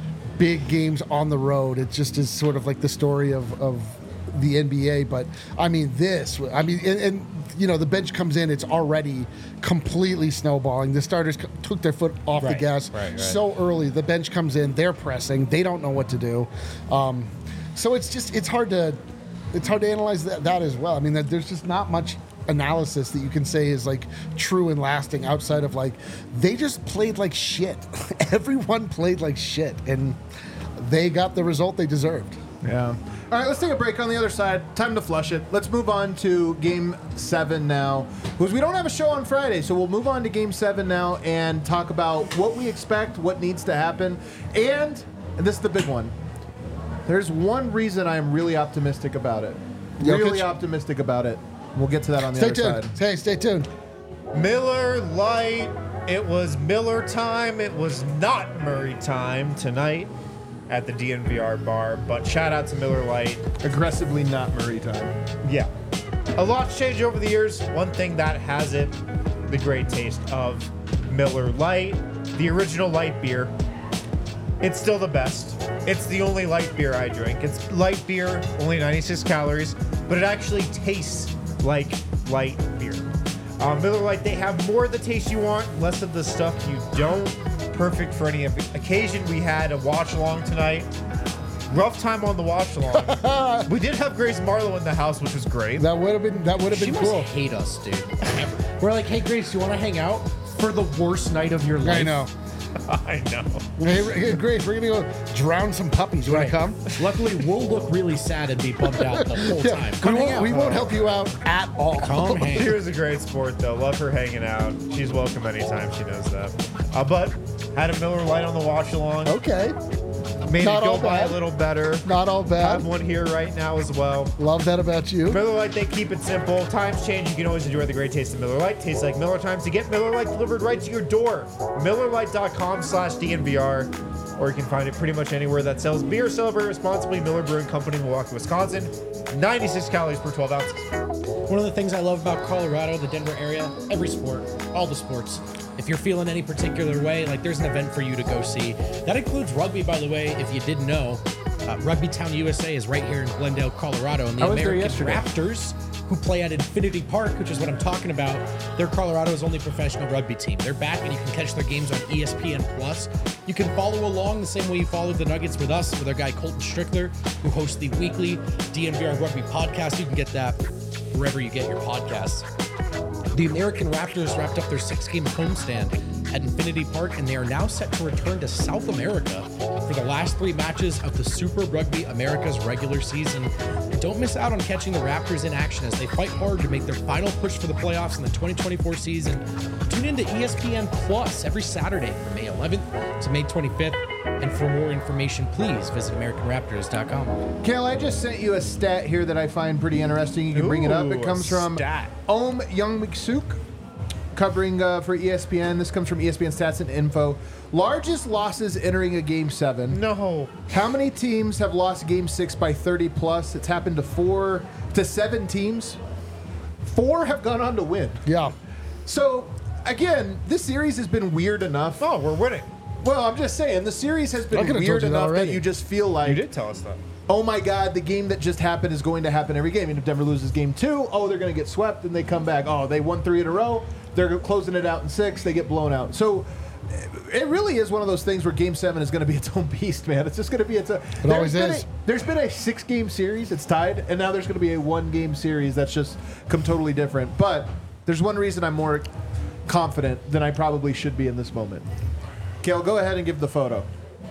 big games on the road. It just is sort of like the story of of the N B A. But I mean, this, I mean, and, and you know, the bench comes in, it's already completely snowballing. The starters c- took their foot off the Right, gas right, right. so early. The bench comes in, they're pressing, they don't know what to do. Um, so it's just, it's hard to, it's hard to analyze that, that as well. I mean, that there's just not much analysis that you can say is like true and lasting outside of like, they just played like shit. Everyone played like shit, and they got the result they deserved. Yeah. All right, let's take a break on the other side. Time to flush it. Let's move on to Game seven now, because we don't have a show on Friday, so we'll move on to Game seven now and talk about what we expect, what needs to happen, and, and this is the big one. There's one reason I am really optimistic about it. Really Jokic? optimistic about it. We'll get to that on the Stay other tuned. side. Hey, stay tuned. Miller Lite. It was Miller time. It was not Murray time tonight at the D N V R bar. But shout out to Miller Lite. Aggressively not Murray time. Yeah. A lot's changed over the years. One thing that has it, the great taste of Miller Lite, the original light beer. It's still the best. It's the only light beer I drink. It's light beer, only ninety-six calories, but it actually tastes like light beer. Uh, Miller Lite, they have more of the taste you want, less of the stuff you don't. Perfect for any occasion. We had a watch along tonight. Rough time on the watch along. We did have Grace Marlowe in the house, which was great. That would have been that would have She been must cool. hate us, dude. We're like, hey, Grace, you want to hang out for the worst night of your life? I know. I know. Hey, hey, Grace, we're gonna go drown some puppies. You Right. want to come? Luckily, we'll look really sad and be bummed out the whole Yeah, time. we Come hang won't, out. we won't help you out at all. Come hang. She was a great sport, though. Love her hanging out. She's welcome anytime. She knows that. Uh, but had a Miller Lite on the watch along. Okay, Made Not it go all by bad. a little better. not all Have bad. one here right now as well. Love that about you. Miller Lite, they keep it simple. Times change. You can always enjoy the great taste of Miller Lite. Tastes like Miller times. To get Miller Lite delivered right to your door, Miller Lite dot com slash D N V R. Or you can find it pretty much anywhere that sells beer. Celebrate responsibly. Miller Brewing Company, Milwaukee, Wisconsin. ninety-six calories per twelve ounces. One of the things I love about Colorado, the Denver area, every sport, all the sports. If you're feeling any particular way, like there's an event for you to go see. That includes rugby, by the way, if you didn't know. Uh, Rugby Town U S A is right here in Glendale, Colorado. And the I was there American yesterday. Raptors, who play at Infinity Park, which is what I'm talking about, they're Colorado's only professional rugby team. They're back, and you can catch their games on E S P N Plus. You can follow along the same way you followed the Nuggets with us, with our guy Colton Strickler, who hosts the weekly D N V R Rugby podcast. You can get that wherever you get your podcasts. The American Raptors wrapped up their six-game homestand at Infinity Park, and they are now set to return to South America for the last three matches of the Super Rugby America's regular season. Don't miss out on catching the Raptors in action as they fight hard to make their final push for the playoffs in the twenty twenty-four season. Tune in to E S P N Plus every Saturday from May eleventh to May twenty-fifth. And for more information, please visit American Raptors dot com. Kale, I just sent you a stat here that I find pretty interesting. You can bring it up. Ooh, It comes a from stat. Om Young-Miksuk, covering uh, for E S P N. This comes from E S P N Stats and Info. Largest losses entering a Game seven. No. How many teams have lost Game six by thirty plus? It's happened to four, to seven teams. Four have gone on to win. Yeah. So, again, this series has been weird enough. Oh, we're winning. Well, I'm just saying, the series has I been could've weird told you that enough that already. you just feel like, You did tell us that. oh my God, the game that just happened is going to happen every game. And if Denver loses game two, oh, they're going to get swept, and they come back. Oh, they won three in a row. They're closing it out in six. They get blown out. So it really is one of those things where game seven is going to be its own beast, man. It's just going to be its own. It always been is. A, there's been a six-game series. It's tied. And now there's going to be a one-game series that's just come totally different. But there's one reason I'm more confident than I probably should be in this moment. Kale, go ahead and give the photo.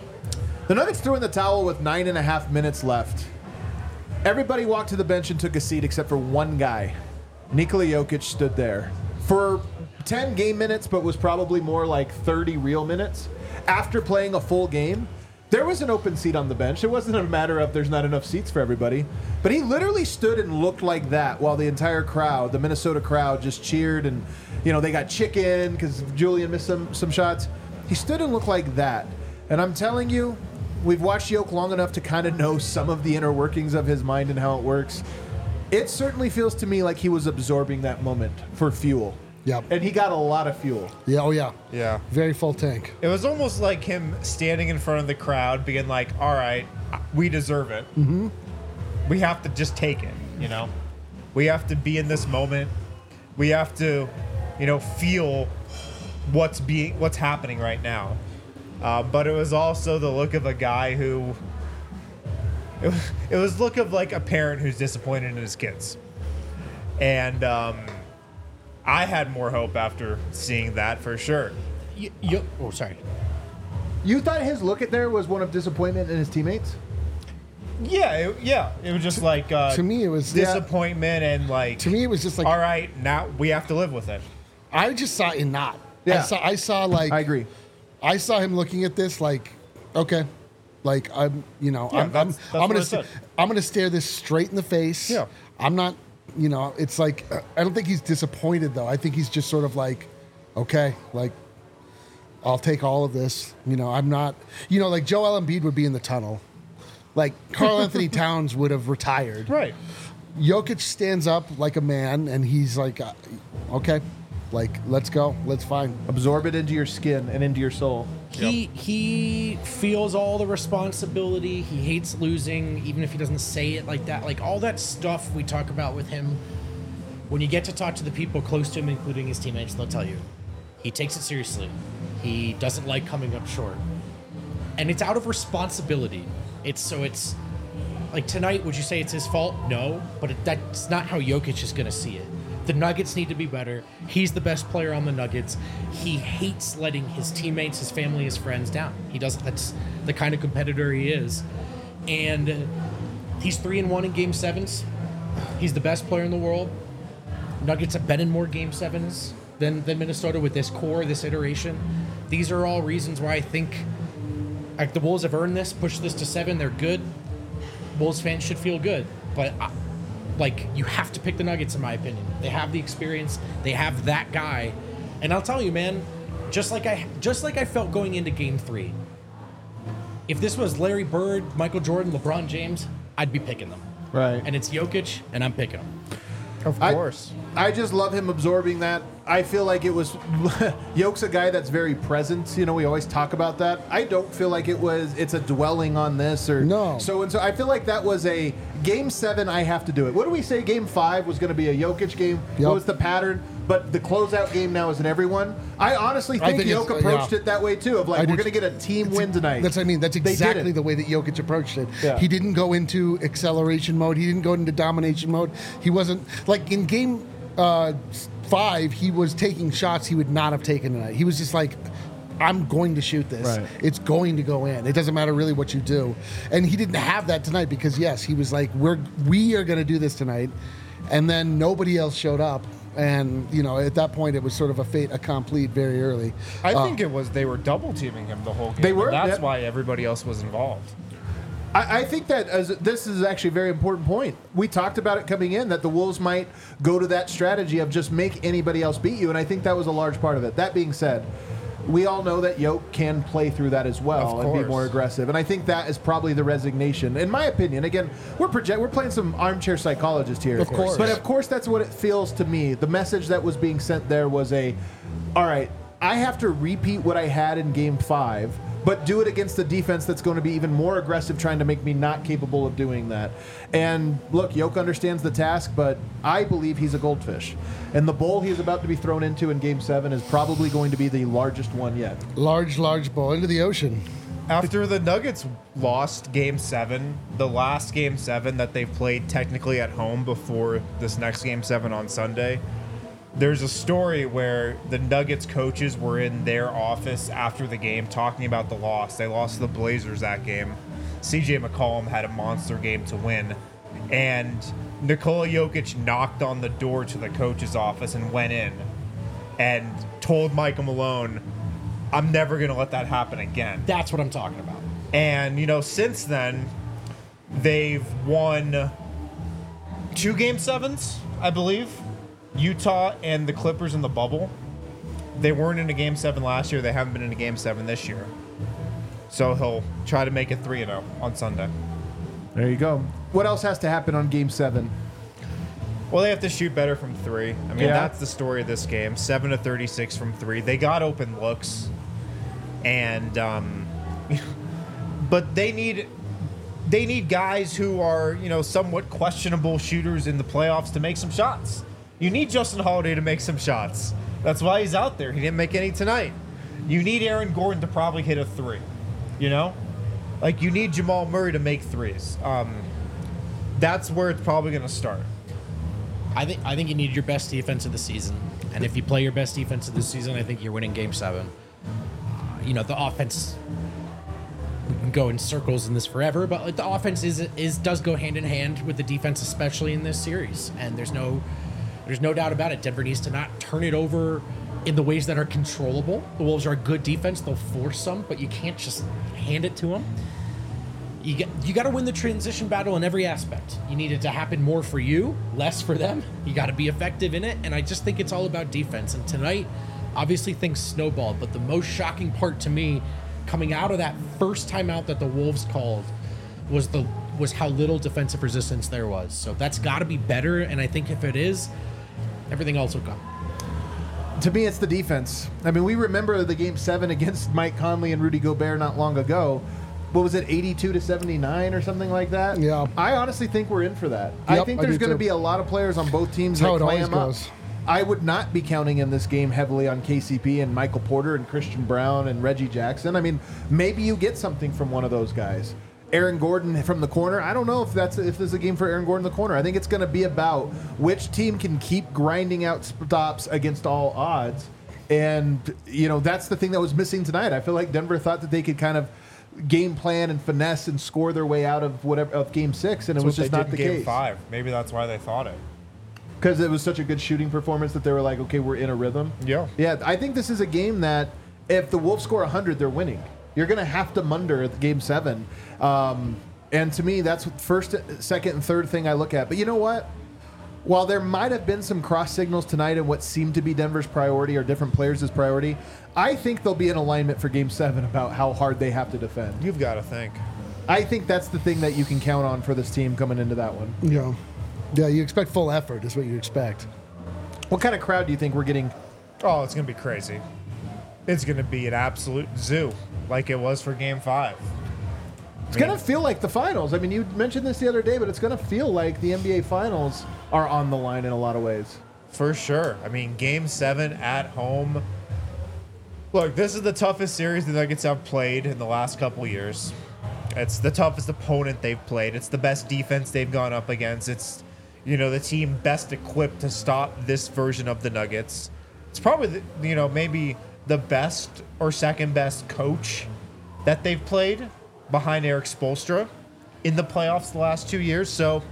The Nuggets threw in the towel with nine and a half minutes left. Everybody walked to the bench and took a seat except for one guy. Nikola Jokic stood there for ten game minutes, but was probably more like thirty real minutes. After playing a full game, there was an open seat on the bench. It wasn't a matter of there's not enough seats for everybody. But he literally stood and looked like that while the entire crowd, the Minnesota crowd, just cheered. And, you know, they got chicken because Julian missed some, some shots. He stood and looked like that. And I'm telling you, we've watched Yoke long enough to kind of know some of the inner workings of his mind and how it works. It certainly feels to me like he was absorbing that moment for fuel. Yep. And he got a lot of fuel. Yeah, oh yeah. Yeah. Very full tank. It was almost like him standing in front of the crowd being like, all right, we deserve it. Mm-hmm. We have to just take it, you know? We have to be in this moment. We have to, you know, feel what's being, what's happening right now. Uh, but it was also the look of a guy who, it was, it was look of like a parent who's disappointed in his kids. And um, I had more hope after seeing that for sure. You, you, oh, sorry. You thought his look at there was one of disappointment in his teammates? Yeah, it, yeah. It was just like uh, To me, it was disappointment and like. To me, it was just like all right, now we have to live with it. I just saw it not. Yeah. I saw. I saw like. I agree. I saw him looking at this like, okay, like I'm, you know, Yeah, I'm, I'm, that's- that's I'm what gonna, I said. st- I'm gonna stare this straight in the face. Yeah. I'm not, you know, it's like uh, I don't think he's disappointed though. I think he's just sort of like, okay, like, I'll take all of this. You know, I'm not, you know, like Joel Embiid would be in the tunnel, like Karl Anthony Towns would have retired. Right. Jokic stands up like a man, and he's like, uh, okay, like let's go, let's fine. Absorb it into your skin and into your soul. He he feels all the responsibility. He hates losing, even if he doesn't say it like that. Like all that stuff we talk about with him. When you get to talk to the people close to him, including his teammates, they'll tell you he takes it seriously. He doesn't like coming up short, and it's out of responsibility. It's so it's like tonight. Would you say it's his fault? No, but it, that's not how Jokic is going to see it. The Nuggets need to be better. He's the best player on the Nuggets. He hates letting his teammates, his family, his friends down. He doesn't. That's the kind of competitor he is, and he's three and one in Game Sevens. He's the best player in the world. Nuggets have been in more Game Sevens than than Minnesota with this core, this iteration. These are all reasons why I think like the Wolves have earned this, pushed this to seven. They're good. Wolves fans should feel good, but. I, Like, you have to pick the Nuggets, in my opinion. They have the experience. They have that guy. And I'll tell you, man, just like I just like I felt going into Game three, if this was Larry Bird, Michael Jordan, LeBron James, I'd be picking them. Right. And it's Jokic, and I'm picking him. Of I- course. I just love him absorbing that. I feel like it was Yoke's a guy that's very present. You know, we always talk about that. I don't feel like it was it's a dwelling on this or No. so and so. I feel like that was a game seven. I have to do it. What do we say? Game five was going to be a Jokic game. Yep. What was the pattern? But the closeout game now is an everyone. I honestly I think, think Yoke it's- approached yeah. it that way too. Of I like we're do going to get a team win tonight. That's what I mean. That's They exactly didn't. the way that Jokic approached it. Yeah. He didn't go into acceleration mode. He didn't go into domination mode. He wasn't like in game uh, five. He was taking shots he would not have taken tonight. He was just like, I'm going to shoot this. Right. It's going to go in. It doesn't matter really what you do. And he didn't have that tonight because yes, he was like, we're we are going to do this tonight, and then nobody else showed up. And you know, at that point, it was sort of a fait accompli very early. I Uh, think it was they were double teaming him the whole game. They were, and that's yeah. why everybody else was involved. I, I think that as this is actually a very important point. We talked about it coming in that the Wolves might go to that strategy of just make anybody else beat you, and I think that was a large part of it. That being said, we all know that Yoke can play through that as well Of and be course. more aggressive, and I think that is probably the resignation, in my opinion. Again, we're project we're playing some armchair psychologist here, Of course. but of course that's what it feels to me. The message that was being sent there was a, all right, I have to repeat what I had in Game Five, but do it against a defense that's going to be even more aggressive, trying to make me not capable of doing that. And look, Yoke understands the task, but I believe he's a goldfish. And the bowl he's about to be thrown into in Game seven is probably going to be the largest one yet. large, large ball into the ocean. After the Nuggets lost Game Seven, the last Game Seven that they've played technically at home before this next Game Seven on Sunday, there's a story where the Nuggets coaches were in their office after the game talking about the loss. They lost to the Blazers that game. C J McCollum had a monster game to win, and Nikola Jokic knocked on the door to the coach's office and went in and told Michael Malone, I'm never going to let that happen again. That's what I'm talking about. And, you know, since then, they've won two game sevens, I believe. Utah and the Clippers in the bubble. They weren't in a game seven last year. They haven't been in a game seven this year. So he'll try to make it three and oh on Sunday. There you go. What else has to happen on Game Seven? Well, they have to shoot better from three. I mean, Yeah. that's the story of this game. seven to thirty-six from three. They got open looks, and um, but they need they need guys who are, you know, somewhat questionable shooters in the playoffs to make some shots. You need Justin Holiday to make some shots. That's why he's out there. He didn't make any tonight. You need Aaron Gordon to probably hit a three. You know, like you need Jamal Murray to make threes. Um, that's where it's probably going to start. I think I think you need your best defense of the season, and if you play your best defense of the season, I think you're winning Game Seven. Uh, you know, the offense. We can go in circles in this forever, but like, the offense is is does go hand in hand with the defense, especially in this series. And there's no there's no doubt about it. Denver needs to not turn it over in the ways that are controllable. The Wolves are a good defense; they'll force some, but you can't just hand it to them. You get you got to win the transition battle in every aspect. You need it to happen more for you, less for them. You got to be effective in it, and I just think it's all about defense. And tonight, obviously things snowballed, but the most shocking part to me, coming out of that first timeout that the Wolves called, was the was how little defensive resistance there was. So that's got to be better, and I think if it is, everything else will come. To me, it's the defense. I mean, we remember the Game Seven against Mike Conley and Rudy Gobert not long ago. What was it, eighty-two to seventy-nine or something like that? Yeah. I honestly think we're in for that. I Yep, think I there's do going to too. be a lot of players on both teams That's how that it always clam up. goes. I would not be counting in this game heavily on K C P and Michael Porter and Christian Brown and Reggie Jackson. I mean, maybe you get something from one of those guys. Aaron Gordon from the corner. I don't know if that's if there's a game for Aaron Gordon in the corner. I think it's going to be about which team can keep grinding out stops against all odds. And, you know, that's the thing that was missing tonight. I feel like Denver thought that they could kind of game plan and finesse and score their way out of whatever of game six, and That's it was what just they not did the in game case. five. Maybe that's why they thought it. Because it was such a good shooting performance that they were like, okay, we're in a rhythm. Yeah. Yeah, I think this is a game that if the Wolves score one hundred, they're winning. You're going to have to munder at game seven. Um, and to me, that's first, second, and third thing I look at. But you know what? While there might have been some cross signals tonight in what seemed to be Denver's priority or different players' priority, I think they'll be in alignment for game seven about how hard they have to defend. You've got to think. I think that's the thing that you can count on for this team coming into that one. Yeah. Yeah, you expect full effort is what you expect. What kind of crowd do you think we're getting? Oh, it's going to be crazy. It's going to be an absolute zoo like it was for game five. It's going to feel like the finals. I mean, you mentioned this the other day, but it's going to feel like the N B A finals are on the line in a lot of ways. For sure. I mean, game seven at home. Look, this is the toughest series the Nuggets have played in the last couple years. It's the toughest opponent they've played. It's the best defense they've gone up against. It's, you know, the team best equipped to stop this version of the Nuggets. It's probably, the, you know, maybe the best or second best coach that they've played behind Eric Spoelstra in the playoffs the last two years. So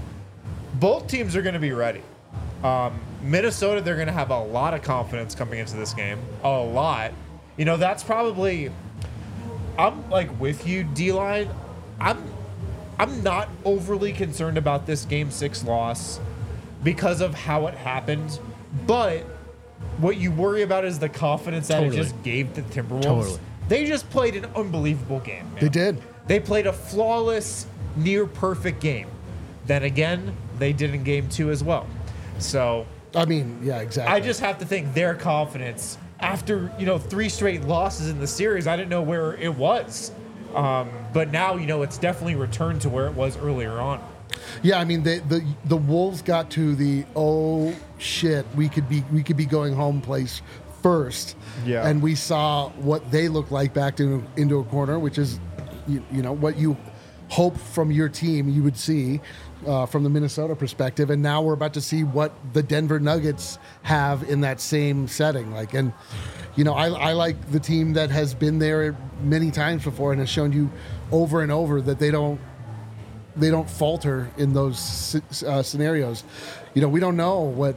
both teams are going to be ready. Um, Minnesota, they're going to have a lot of confidence coming into this game. A lot. You know, that's probably... I'm, like, with you, D-Line. I'm, I'm not overly concerned about this Game six loss because of how it happened. But what you worry about is the confidence that Totally. it just gave the Timberwolves. Totally. They just played an unbelievable game, man. They did. They played a flawless, near-perfect game. Then again, they did in Game two as well. So I mean, yeah, exactly. I just have to think their confidence after, you know, three straight losses in the series. I didn't know where it was. Um, but now, you know, it's definitely returned to where it was earlier on. Yeah, I mean the the the Wolves got to the oh shit, we could be we could be going home place first. Yeah. And we saw what they look like backed into, into a corner, which is you, you know what you hope from your team you would see uh, from the Minnesota perspective, and now we're about to see what the Denver Nuggets have in that same setting. Like, and you know, I, I like the team that has been there many times before and has shown you over and over that they don't they don't falter in those uh, scenarios. You know, we don't know what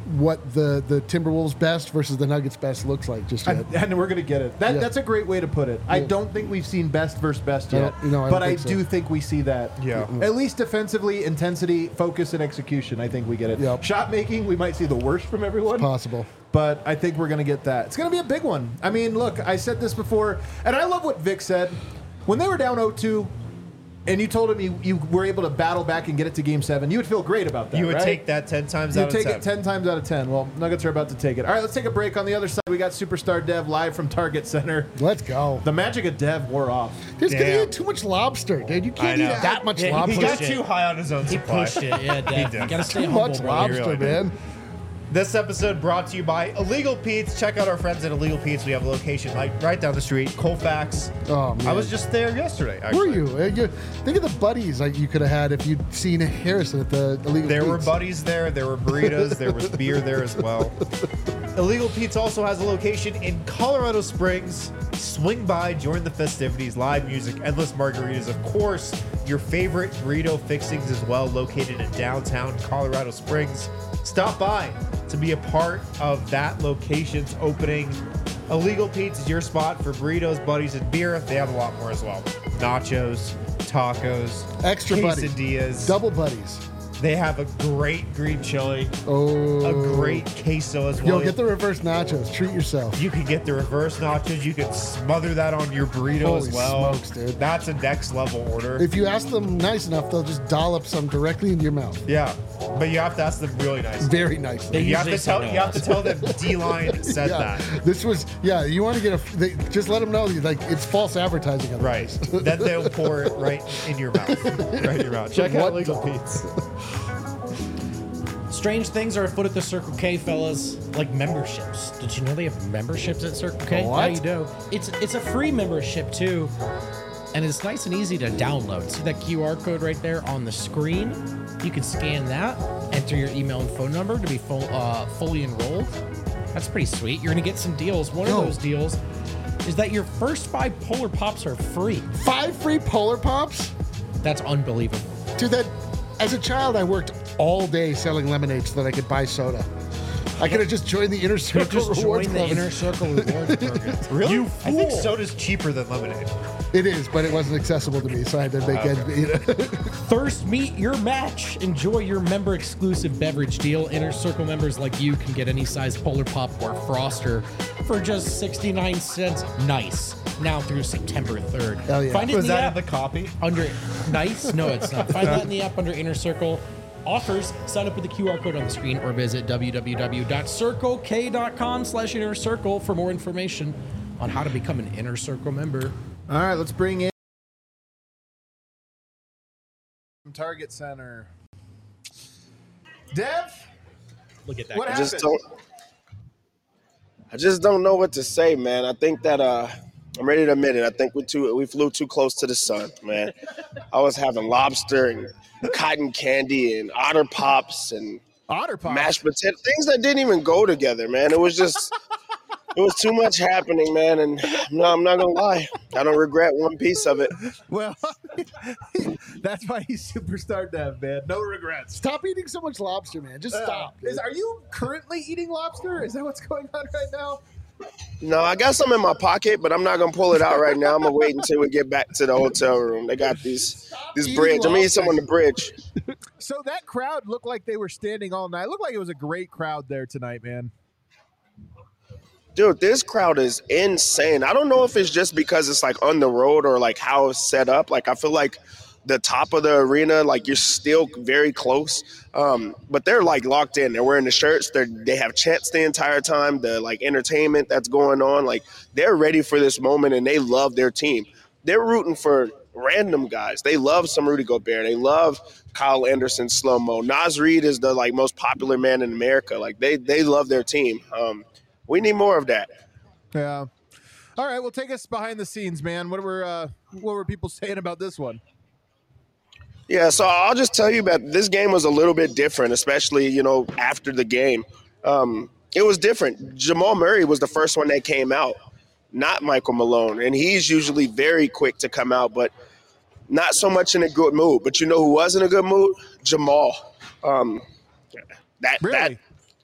what the, the Timberwolves best versus the Nuggets best looks like just yet. And, and we're going to get it. That, Yeah. That's a great way to put it. I Yeah. don't think we've seen best versus best I yet, don't- no, I don't but I think so. do think we see that. Yeah. At least defensively, intensity, focus, and execution, I think we get it. Yep. Shot making, we might see the worst from everyone. Possible. But I think we're going to get that. It's going to be a big one. I mean, look, I said this before, and I love what Vic said. When they were down oh two, and you told him you, you were able to battle back and get it to game seven, you would feel great about that, You would right? take that ten times You out of take ten. it ten times out of ten. Well, Nuggets are about to take it. All right, let's take a break. On the other side, we got Superstar Dev live from Target Center. Let's go. The magic of Dev wore off. Dude, because he Damn. ate too much lobster, dude. You can't I eat know. that much Yeah, he lobster. He pushed got it. too high on his own He supply. pushed it. Yeah, Dad. did. You gotta stay Too humble, much bro. lobster, really man. This episode brought to you by Illegal Pete's. Check out our friends at Illegal Pete's. We have a location like right down the street, Colfax. Oh, man. I was just there yesterday. Were Actually. you? Uh, you? Think of the buddies like you could have had if you'd seen Harrison at the Illegal There were Pete's. buddies there. There were burritos. There was beer there as well. Illegal Pete's also has a location in Colorado Springs. Swing by, join the festivities, live music, endless margaritas. Of course, your favorite burrito fixings as well, located in downtown Colorado Springs. Stop by to be a part of that location's opening. Illegal Pete's is your spot for burritos, buddies, and beer. They have a lot more as well. Nachos, tacos, Extra buddies. quesadillas. Double buddies. They have a great green chili, Oh. a great queso as well. Yo, get the reverse nachos. Treat yourself. You could get the reverse nachos. You could smother that on your burrito Holy as well. smokes, dude. That's a next level order. If you ask them nice enough, they'll just dollop some directly into your mouth. yeah, but you have to ask them really nice. Very nicely. They You have to usually say tell. no You have to also. tell them D-Line said yeah, that. this was yeah. You want to get a they, just let them know like it's false advertising. Right. otherwise. Then they'll pour it right in your mouth. Right in your mouth. Check out What Legal the- Pete's. Strange things are afoot at the Circle K, fellas. Like memberships. Did you know they have memberships at Circle K? What? Yeah, you do. It's it's a free membership too, and it's nice and easy to download. See that Q R code right there on the screen? You can scan that, enter your email and phone number to be full, uh, fully enrolled. That's pretty sweet. You're gonna get some deals. One Yo. of those deals is that your first five Polar Pops are free. Five free Polar Pops. That's unbelievable. Dude, that as a child, I worked all day selling lemonade so that I could buy soda. I could have just joined the Inner Circle Just Rewards join the Club. Inner Circle Rewards Program. Really? You I think fool. soda's cheaper than lemonade. It is, but it wasn't accessible to me, so I had to make Okay. ends meet. Thirst meet your match. Enjoy your member exclusive beverage deal. Inner Circle members like you can get any size Polar Pop or Froster for just sixty-nine cents. Nice. Now through September third. Hell yeah. Find it Was in the that app in the copy? under nice. No, it's not. Find that in the app under Inner Circle. Offers, sign up with the Q R code on the screen or visit www.circlek.com slash inner circle for more information on how to become an Inner Circle member. All right, let's bring in Target Center. Dev, Look at that. what guy. I happened? just don't. I just don't know what to say, man. I think that uh, I'm ready to admit it. I think we too we flew too close to the sun, man. I was having lobster and cotton candy and otter pops and Otter Pop. mashed potato things that didn't even go together, man. It was just it was too much happening, man. And no, I'm not gonna lie, I don't regret one piece of it. Well, that's why he's Superstar Dev, man. No regrets. Stop eating so much lobster, man. Just Uh, stop. is, are you currently eating lobster? Is that what's going on right now? No, I got some in my pocket, but I'm not gonna pull it out right now. I'm gonna wait until we get back to the hotel room. They got these this eating bridge. I'm gonna eat some on lobster. the bridge. So that crowd looked like they were standing all night. It looked like it was a great crowd there tonight, man. Dude, this crowd is insane. I don't know if it's just because it's like on the road or like how it's set up. Like I feel like the top of the arena, like you're still very close. Um, but they're like locked in. They're wearing the shirts. They they have chants the entire time. The like entertainment that's going on. Like they're ready for this moment and they love their team. They're rooting for random guys. They love some Rudy Gobert. They love Kyle Anderson, slow mo. Nas Reed is the like most popular man in America. Like they they love their team. Um, we need more of that. Yeah. All right, well, take us behind the scenes, man. What were uh, what were people saying about this one? Yeah, so I'll just tell you that this game was a little bit different, especially, you know, after the game. Um, it was different. Jamal Murray was the first one that came out, not Michael Malone. And he's usually very quick to come out, but not so much in a good mood. But you know who was in a good mood? Jamal. Um, that, Really? that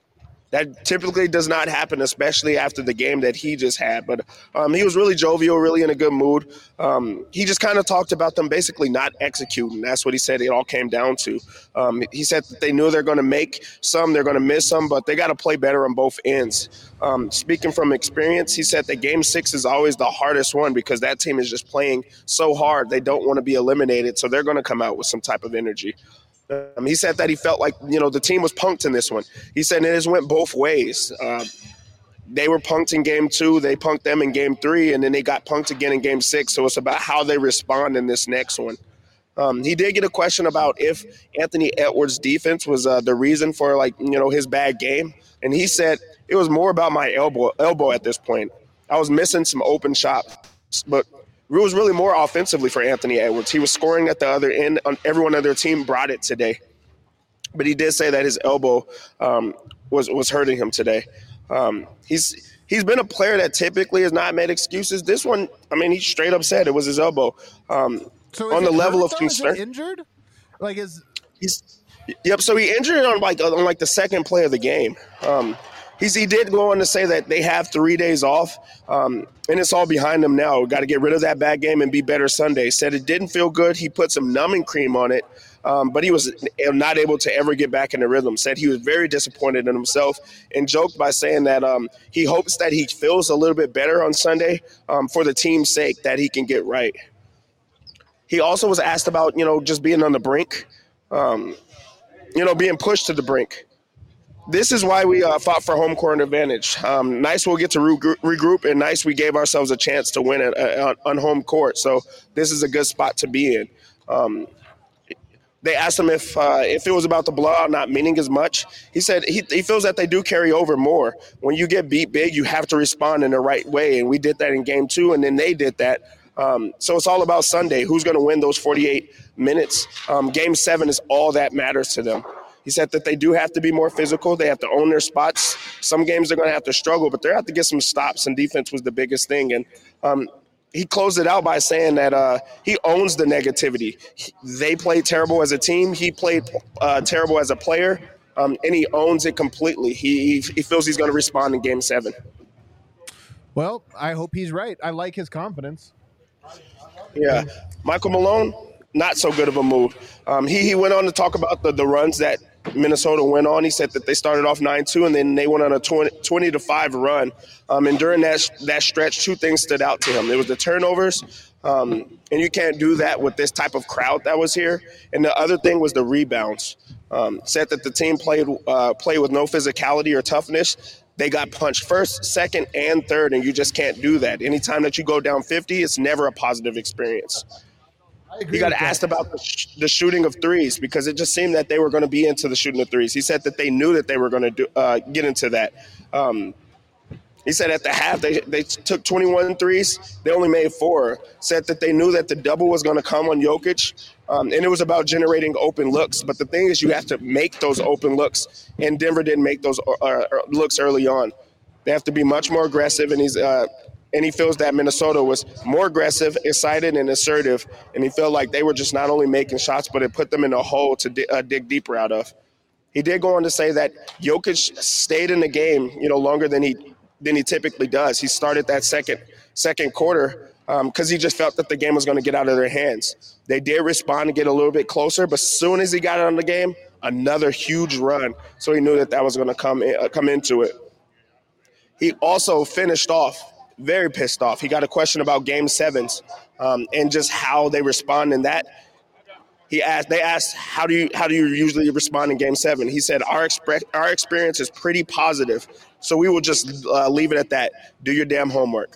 That typically does not happen, especially after the game that he just had. But um, he was really jovial, really in a good mood. Um, he just kind of talked about them basically not executing. That's what he said it all came down to. Um, he said that they knew they're going to make some, they're going to miss some, but they got to play better on both ends. Um, speaking from experience, he said that game six is always the hardest one because that team is just playing so hard. They don't want to be eliminated, so they're going to come out with some type of energy. Um, he said that he felt like, you know, the team was punked in this one. He said it just went both ways. Uh, they were punked in game two. They punked them in game three, and then they got punked again in game six. So it's about how they respond in this next one. Um, he did get a question about if Anthony Edwards' defense was uh, the reason for, like, you know, his bad game. And he said it was more about my elbow, elbow at this point. I was missing some open shots, but it was really more offensively for Anthony Edwards. He was scoring at the other end. Everyone on their team brought it today. But he did say that his elbow um, was, was hurting him today. Um, he's he's been a player that typically has not made excuses. This one, I mean, he straight up said it was his elbow. Um, So on is the it level hurt, of though? concern. Is it injured? Like is He's, yep. So he injured it on like on like the second play of the game. Um, he's he did go on to say that they have three days off, um, and it's all behind him now. Got to get rid of that bad game and be better Sunday. Said it didn't feel good. He put some numbing cream on it, um, but he was not able to ever get back in the rhythm. Said he was very disappointed in himself and joked by saying that um, he hopes that he feels a little bit better on Sunday um, for the team's sake, that he can get right. He also was asked about, you know, just being on the brink, um, you know, being pushed to the brink. This is why we uh, fought for home court advantage. Um, nice we'll get to regroup, regroup, and nice we gave ourselves a chance to win it uh, on home court. So this is a good spot to be in. Um, they asked him if uh, if it was about the blowout not meaning as much. He said he, he feels that they do carry over more. When you get beat big, you have to respond in the right way, and we did that in game two, and then they did that. Um, so it's all about Sunday. Who's going to win those forty-eight minutes? Um, game seven is all that matters to them. He said that they do have to be more physical. They have to own their spots. Some games they're going to have to struggle, but they have to get some stops, and defense was the biggest thing. And um, he closed it out by saying that uh, he owns the negativity. He, they played terrible as a team. He played uh, terrible as a player, um, and he owns it completely. He, he feels he's going to respond in game seven. well, I hope he's right. I like his confidence. Yeah. Michael Malone, not so good of a move. Um, he, he went on to talk about the, the runs that Minnesota went on. He said that they started off nine two, and then they went on a twenty to five run. Um, and during that that stretch, two things stood out to him. It was the turnovers, um, and you can't do that with this type of crowd that was here. And the other thing was the rebounds. Um, said that the team played uh, played with no physicality or toughness. They got punched first, second, and third, and you just can't do that. Anytime that you go down fifty, it's never a positive experience. He got asked about the, sh- the shooting of threes because it just seemed that they were going to be into the shooting of threes. He said that they knew that they were going to do uh, get into that. Um, he said at the half they, they took twenty-one threes. They only made four. Said that they knew that the double was going to come on Jokic, um, and it was about generating open looks. But the thing is you have to make those open looks, and Denver didn't make those uh, looks early on. They have to be much more aggressive, and he's uh, – and he feels that Minnesota was more aggressive, excited, and assertive. And he felt like they were just not only making shots, but it put them in a hole to di- uh, dig deeper out of. He did go on to say that Jokic stayed in the game, you know, longer than he than he typically does. He started that second second quarter because um, he just felt that the game was going to get out of their hands. They did respond and get a little bit closer, but as soon as he got on the game, another huge run. So he knew that that was going to come in, uh, come into it. He also finished off very pissed off. He got a question about game sevens um, and just how they respond in that. He asked, they asked, how do you how do you usually respond in game seven? He said, our expre- our experience is pretty positive, so we will just uh, leave it at that. Do your damn homework.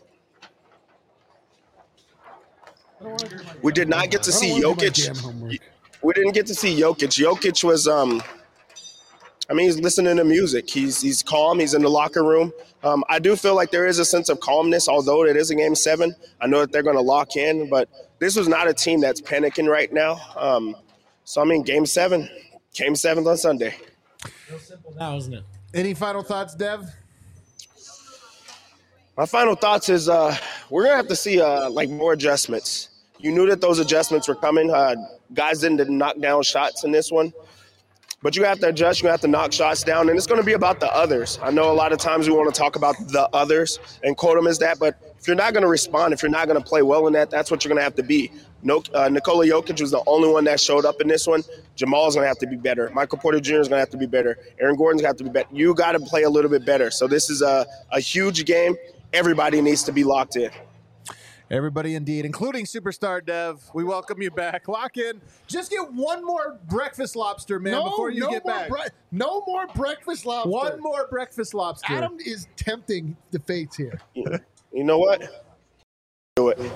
We did not get to see Jokic. We didn't get to see Jokic. Jokic was, um, I mean, he's listening to music. He's he's calm. He's in the locker room. Um, I do feel like there is a sense of calmness, although it is a game seven. I know that they're going to lock in, but this was not a team that's panicking right now. Um, so, I mean, game seven. Game seventh on Sunday. Real simple now, isn't it? Any final thoughts, Dev? My final thoughts is uh, we're going to have to see uh, like more adjustments. You knew that those adjustments were coming. Uh, guys didn't knock down shots in this one. but you have to adjust. You have to knock shots down, and it's going to be about the others. I know a lot of times we want to talk about the others and quote them as that, but if you're not going to respond, if you're not going to play well in that, that's what you're going to have to be. No, uh, Nikola Jokic was the only one that showed up in this one. Jamal's going to have to be better. Michael Porter Junior is going to have to be better. Aaron Gordon's going to have to be better. You got to play a little bit better. So this is a, a huge game. Everybody needs to be locked in. Everybody indeed, including Superstar Dev. We welcome you back. Lock in. Just get one more breakfast lobster, man, No, before you no get more back. bre- no more breakfast lobster. One more breakfast lobster. Adam is tempting the fates here. You know what? Do it.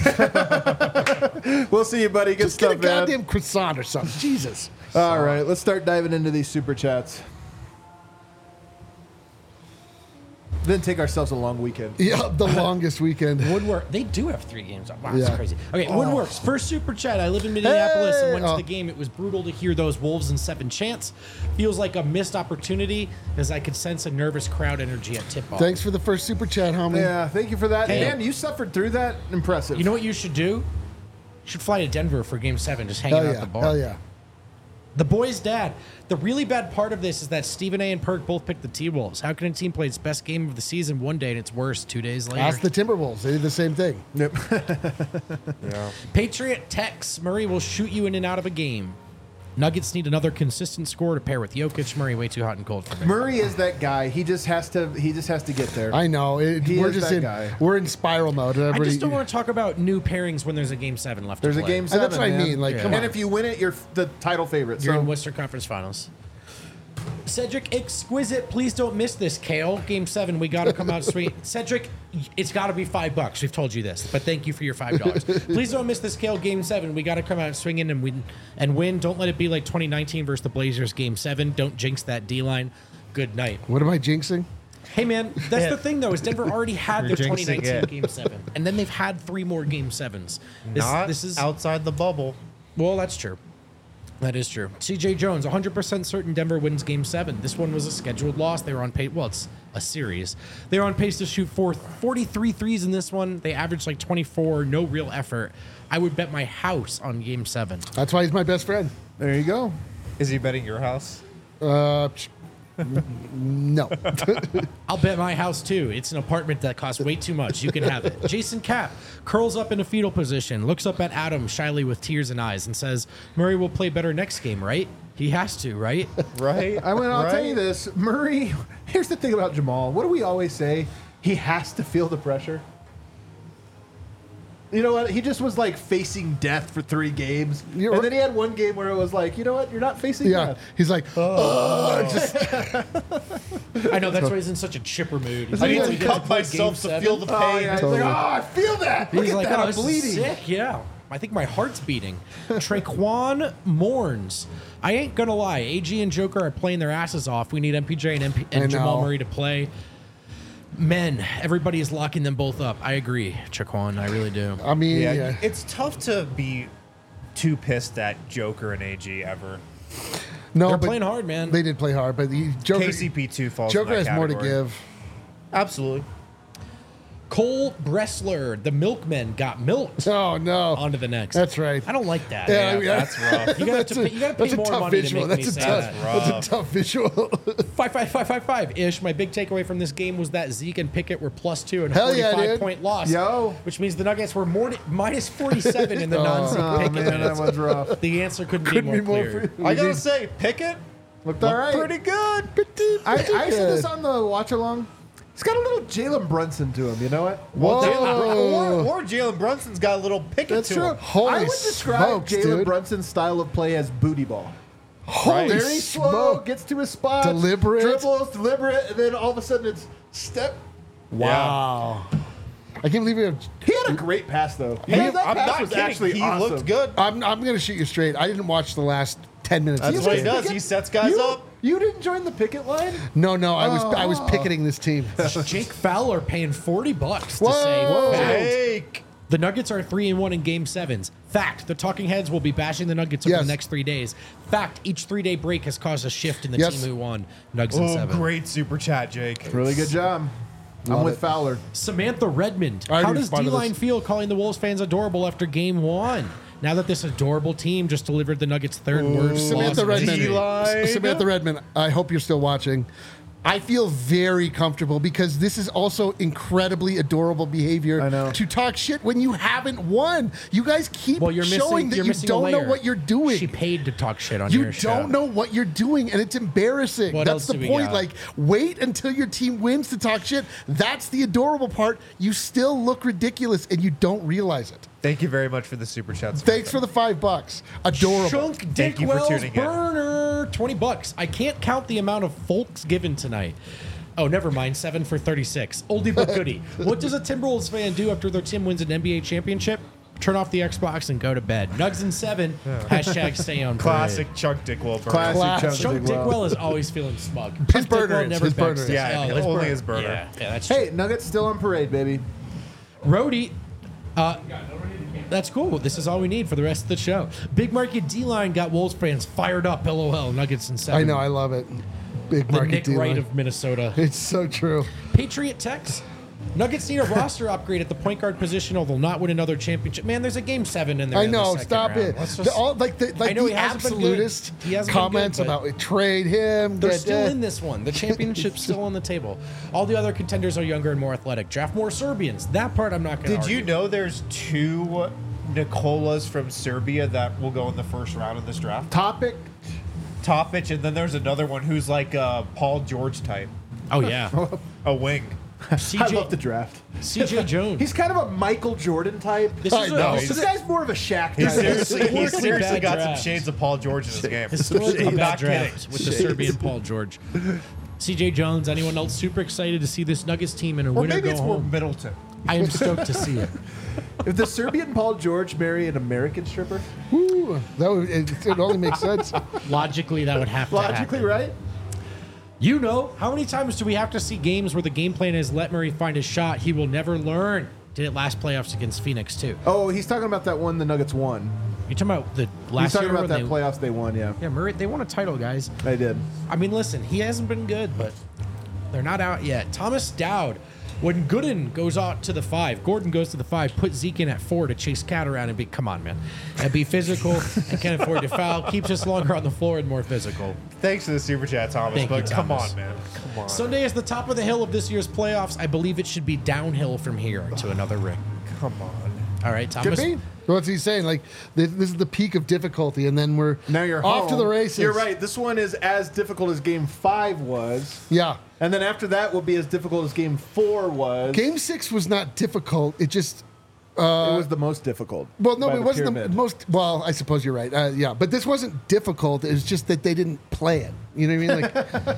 We'll see you, buddy. Good Just stuff, get a man. goddamn croissant or something. Jesus. All right, let's start diving into these super chats. Then take ourselves a long weekend. Yeah, the longest weekend. Woodwork, they do have three games. Wow, Yeah. that's crazy. Okay, Woodworks, first super chat. I live in Minneapolis and went Hey! to Oh. the game. It was brutal to hear those Wolves in seven chants. Feels like a missed opportunity as I could sense a nervous crowd energy at tip-off. Thanks for the first super chat, homie. Yeah, thank you for that. Hey. Man, you suffered through that. Impressive. You know what you should do? You should fly to Denver for game seven, just hanging Hell out yeah. at the bar. Hell yeah. The boys' dad. The really bad part of this is that Stephen A. and Perk both picked the T-Wolves. How can a team play its best game of the season one day and its worst two days later? Ask the Timberwolves. They did the same thing. Yep. Patriot Tex. Murray will shoot you in and out of a game. Nuggets need another consistent score to pair with Jokic. Murray way too hot and cold for me. Murray is that guy. He just has to. He just has to get there. I know. It, He we're is just that in guy. we're in spiral mode. I Everybody, just don't want to talk about new pairings when there's a game seven left. There's to a play. game And seven. that's what I man. mean, like, come and on. if you win it, you're the title favorite. You're so in Western Conference Finals. Cedric Exquisite, please don't miss this, Kale. Game seven, we got to come out sweet. Cedric, it's got to be five bucks. We've told you this, but thank you for your five dollars. Please don't miss this, Kale. Game seven, we got to come out swinging and win. And win. Don't let it be like twenty nineteen versus the Blazers. Game seven. Don't jinx that D line. Good night. What am I jinxing? Hey man, that's the thing though. Is Denver already had their You're twenty jinxing nineteen it. Game seven, and then they've had three more Game sevens. This, Not this is outside the bubble. well, that's true. That is true. C J Jones, one hundred percent certain Denver wins Game seven. This one was a scheduled loss. They were on pace. Well, it's a series. They were on pace to shoot four, forty-three threes in this one. They averaged like twenty-four, no real effort. I would bet my house on Game seven. That's why he's my best friend. there you go. Is he betting your house? Uh, psh, no. I'll bet my house too. It's an apartment that costs way too much. You can have it. Jason Cap curls up in a fetal position, looks up at Adam shyly with tears in eyes, and says, Murray will play better next game, right? He has to, right? Right. I mean, I'll tell Right? you this, Murray. Here's the thing about Jamal. What do we always say? He has to feel the pressure. You know what? He just was like facing death for three games, You're and right. then he had one game where it was like, you know what? You're not facing Yeah. death. He's like, oh, just I know, that's why he's in such a chipper mood. He's I like, need "Oh, to we get to cut play myself game to feel seven?" the Oh pain. yeah. He's Totally. like, oh, I feel that. Look He's at like, that. oh, I'm this is bleeding. sick. Yeah. I think my heart's beating. Traquan mourns. I ain't gonna lie. A G and Joker are playing their asses off. We need M P J and, M P- I and Jamal know. Murray to play. Men, everybody is locking them both up. I agree, Traquan. I really do. I mean, Yeah, yeah. it's tough to be too pissed at Joker and A G ever. no, They're but playing hard, man. They did play hard, but he, Joker, K C P two falls. Joker in has that more to category. give. Absolutely. Cole Bressler, the milkmen, got milked. Oh no, On to the next. That's right. I don't like that. Yeah, Yeah, I mean, that's rough. You gotta, to pay, you gotta pay That's a more tough money visual. to make That's me a say tough. that. That's That's rough. a tough visual. Five, five, five, five, five ish. My big takeaway from this game was that Zeke and Pickett were plus two and a Hell yeah, forty-five dude. point loss. Yo. Which means the Nuggets were more minus forty-seven in the Oh. non-Zeke Oh Pickett man, that minutes. was rough. The answer couldn't, Couldn't be be more more clear. free. I gotta say, Pickett Looked all right. pretty good. I, I said this on the watch along. He's got a little Jalen Brunson to him. You know what? Whoa. Or, or Jalen Brunson's got a little Pickett That's to true. him. Holy I would describe smokes, Jalen dude. Brunson's style of play as booty ball. Holy Very slow, smoke. gets to his spot, Deliberate. dribbles, deliberate, and then all of a sudden it's step. Wow. I can't believe it. He had a great pass though. Hey, Yeah, that I'm pass not was kidding. actually he awesome. looked good. I'm, I'm going to shoot you straight. I didn't watch the last ten minutes. That's of what this he game. does. He sets guys you, up. You didn't join the picket line? No, no, I was I was Oh. picketing this team. Jake Fowler paying forty bucks to Whoa. say Whoa. fact. Jake. The Nuggets are three and one in Game Sevens. Fact: the Talking Heads will be bashing the Nuggets over Yes. the next three days. Fact: each three-day break has caused a shift in the Yes. team who won. Nuggets in Oh, seven. great super chat, Jake. Really good job. I'm Love with it. Fowler. Samantha Redmond. I How already does responded to D-Line this. feel calling the Wolves fans adorable after Game One? Now that this adorable team just delivered the Nuggets' third worst loss Samantha of Redmond. history. D-line. Samantha Redmond, I hope you're still watching. I feel very comfortable because this is also incredibly adorable behavior I know. to talk shit when you haven't won. You guys keep Well, you're showing missing. that You're you missing a don't know layer. what you're doing. She paid to talk shit on You your don't show. know what you're doing, and it's embarrassing. What That's else do the we point. got? Like, wait until your team wins to talk shit. That's the adorable part. You still look ridiculous, and you don't realize it. Thank you very much for the super chats. Thanks for the five bucks. Adorable. Chunk Thank you for Dickwell's tuning in. burner, twenty bucks. I can't count the amount of folks given tonight. Oh, never mind. Seven for thirty-six. Oldie but goodie. What does a Timberwolves fan do after their team wins an N B A championship? Turn off the Xbox and go to bed. Nugs and seven. Hashtag stay on parade. Classic Chuck Dickwell burner. Classic Class. Chunk Chunk Dickwell. Dickwell is always feeling smug. His Chunk burner Dickwell is, never his burner begs is. us. Yeah, Oh, his only burner. his burner. Yeah, yeah, that's true. Hey, Nuggets still on parade, baby. Rhodey, uh, that's cool. This is all we need for the rest of the show. Big Market D-Line got Wolves fans fired up. LOL. Nuggets and seven. I know. I love it. Big The market Nick deal. Wright of Minnesota. It's so true. Patriot Tex. Nuggets need a roster upgrade at the point guard position, or they'll not win another championship. Man, there's a game seven in there. I in the know. second Stop round. it. Let's The, just- all, like the, like I know the he hasn't been good. absolutist He hasn't been good, comments but- about trade him. They're da- still da. in this one. The championship's still on the table. All the other contenders are younger and more athletic. Draft more Serbians. That part I'm not going to Did you know there's two Nicolas from Serbia that will go in the first round of this draft? Topic. Topic, and then there's another one who's like a Paul George type, Oh, yeah. a wing. C I J, love the draft. C J Jones. He's kind of a Michael Jordan type. This I is know. a, This guy's more of a Shaq He type. seriously, he Historically seriously bad got draft. some shades of Paul George in his game. historically I'm bad not draft kidding. with the Serbian Paul George. C J Jones. Anyone else super excited to see this Nuggets team in a Or winner maybe go it's more home? Middleton. I am stoked to see it. If the Serbian Paul George marry an American stripper, Ooh, that would, it, it only makes sense. Logically, that would have to logically, happen. right? You know, how many times do we have to see games where the game plan is let Murray find his shot? He will never learn. Did it last playoffs against Phoenix too? Oh, he's talking about that one the Nuggets won. You talking about the He's last talking year about when that they, playoffs they won, yeah. Yeah, Murray. They won a title, guys. They did. I mean, listen, he hasn't been good, but they're not out yet. Thomas Dowd, when Gooden goes out to the five, Gordon goes to the five, put Zeke in at four to chase Cat around and be, come on, man. And be physical and can't afford to foul. Keeps us longer on the floor and more physical. Thanks for the super chat, Thomas. Thank but you, come Thomas. on, man. Come on. Sunday is the top of the hill of this year's playoffs. I believe it should be downhill from here to another ring. Come on. All right, Could Thomas. be. What's he saying? Like this, this is the peak of difficulty, and then we're Now you're off to home. the races. You're right. This one is as difficult as game five was. Yeah. And then after that will be as difficult as game four was. Game six was not difficult. It just it was the most difficult. well, no, by it wasn't pyramid. the most. Well, I suppose you're right. Uh, yeah, but this wasn't difficult. It was just that they didn't play it. You know what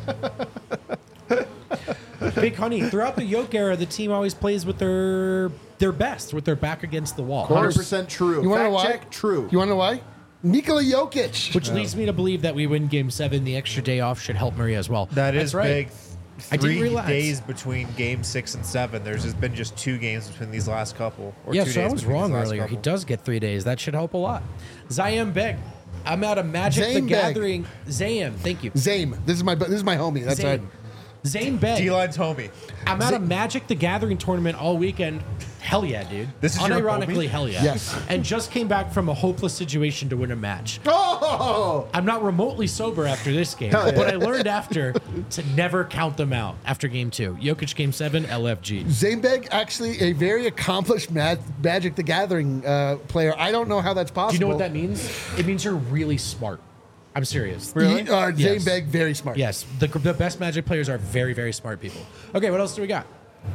I mean? Like Big Honey, throughout the Yoke era, the team always plays with their their best, with their back against the wall. course. one hundred percent true. you want to Fact know why? check, true. You want to know why? Nikola Jokic. Which leads me to believe that we win Game Seven. The extra day off should help Murray as well. That That's is right. big. I didn't Three realize. days between game six and seven. There's just been just two games between these last couple. Or Yeah, two so I days was between wrong these last earlier. He couple. does get three days. That should help a lot. Zayam Beg. I'm out of Magic Zane the Beg. Gathering. Zayam, thank you. Zame. This is my this is my homie. That's right. Zane. Zane Beg. D-line's homie. I'm at a Magic the Gathering tournament all weekend. Hell yeah, dude. This is your unironically homie? hell yeah. Yes. And just came back from a hopeless situation to win a match. Oh! I'm not remotely sober after this game, Hell yeah. but I learned after to never count them out after game two. Jokic game seven, L F G. Zamebeg, actually a very accomplished Mag- Magic the Gathering uh, player. I don't know how that's possible. Do you know what that means? It means you're really smart. I'm serious. He, uh, Yes. Zamebeg, very smart. Yes, the, the best Magic players are very, very smart people. Okay, what else do we got?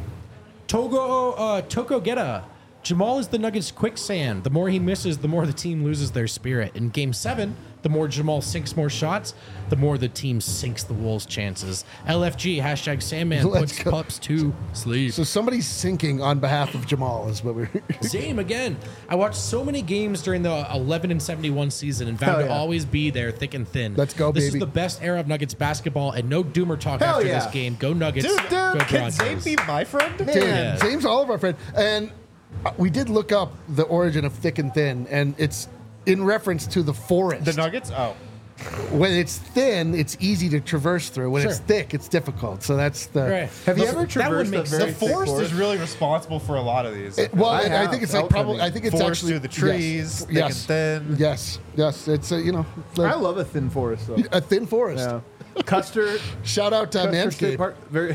Togo uh, Tokogeta. Jamal is the Nuggets' quicksand. The more he misses, the more the team loses their spirit. In Game seven, the more Jamal sinks more shots, the more the team sinks the Wolves' chances. L F G, hashtag Sandman, Let's puts go. pups to sleep. So somebody's sinking on behalf of Jamal is what we're. Same again. I watched so many games during the eleven and seventy-one season and vowed Hell to yeah. always be there, thick and thin. Let's go, This baby. is the best era of Nuggets basketball, and no doomer talk Hell after yeah. this game. Go Nuggets. Dude, Go dude, can Broncos. Zane be my friend? Damn, Yeah. Zame's all of our friend. And uh, we did look up the origin of thick and thin, and it's in reference to the forest. The Nuggets? Oh. when it's thin, it's easy to traverse through. When Sure. it's thick, it's difficult. So that's the. Right. Have you That ever would traversed make a sense. very The thick forest forest? is really responsible for a lot of these. It- well, I I, I have. think it's like Elton probably. I think it's Forest actually through the yes. trees, thick Yes. and thin. Yes. Yes. It's a, you know like I love a thin forest, though. a thin forest. Yeah. Custer, Shout out to Custer State Manscaped. Park. Very.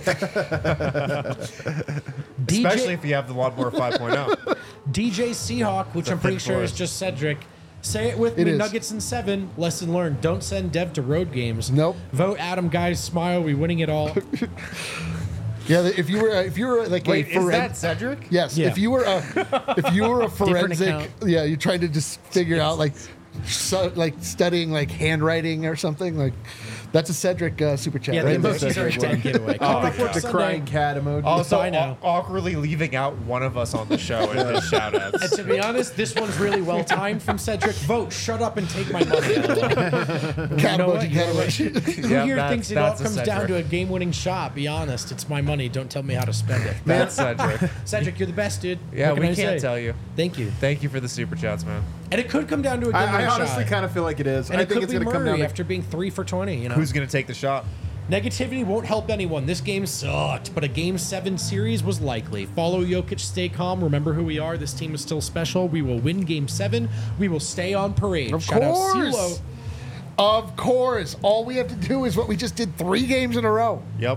D Especially J if you have the Lawnmower five point oh. D J Seahawk, which a I'm pretty thin sure is forest. just Cedric. Say it with It me, is. Nuggets in seven. Lesson learned: don't send Dev to road games. Nope. Vote Adam. Guys, smile. We winning it all. Yeah. If you were a- if you were like Wait, a is foren- that Cedric? Yes. Yeah. If you were a if you were a forensic, account. yeah, you're trying to just figure out like, so, like studying like handwriting or something like, that's a Cedric uh, super chat. Yeah, right the there. emojis are a dead giveaway. Oh, Coming up the for Sunday. crying cat emoji. Also, I know. aw- awkwardly leaving out one of us on the show in his shout And outs. to be honest, this one's really well timed from Cedric. Vote. Shut up and take my money. Cat You know emoji, what? cat You're right. emoji. Who Yeah, here that's- thinks it all that's a comes down Cedric. to a game-winning shot? Be honest, it's my money. Don't tell me how to spend it. That's Cedric. Cedric, you're the best, dude. Yeah, What can we I can't say? tell you. Thank you. Thank you for the super chats, man. And it could come down to a game-winning I, I shot. honestly kind of feel like it is. and I it think could it's be going to come Murray down to after being three for twenty. You know, Who's going to take the shot? negativity won't help anyone. This game sucked, but a game seven series was likely. Follow Jokic, stay calm. Remember who we are. This team is still special. We will win game seven. We will stay on parade. Of Shout out course. CeeLo. Of course. All we have to do is what we just did three games in a row. Yep.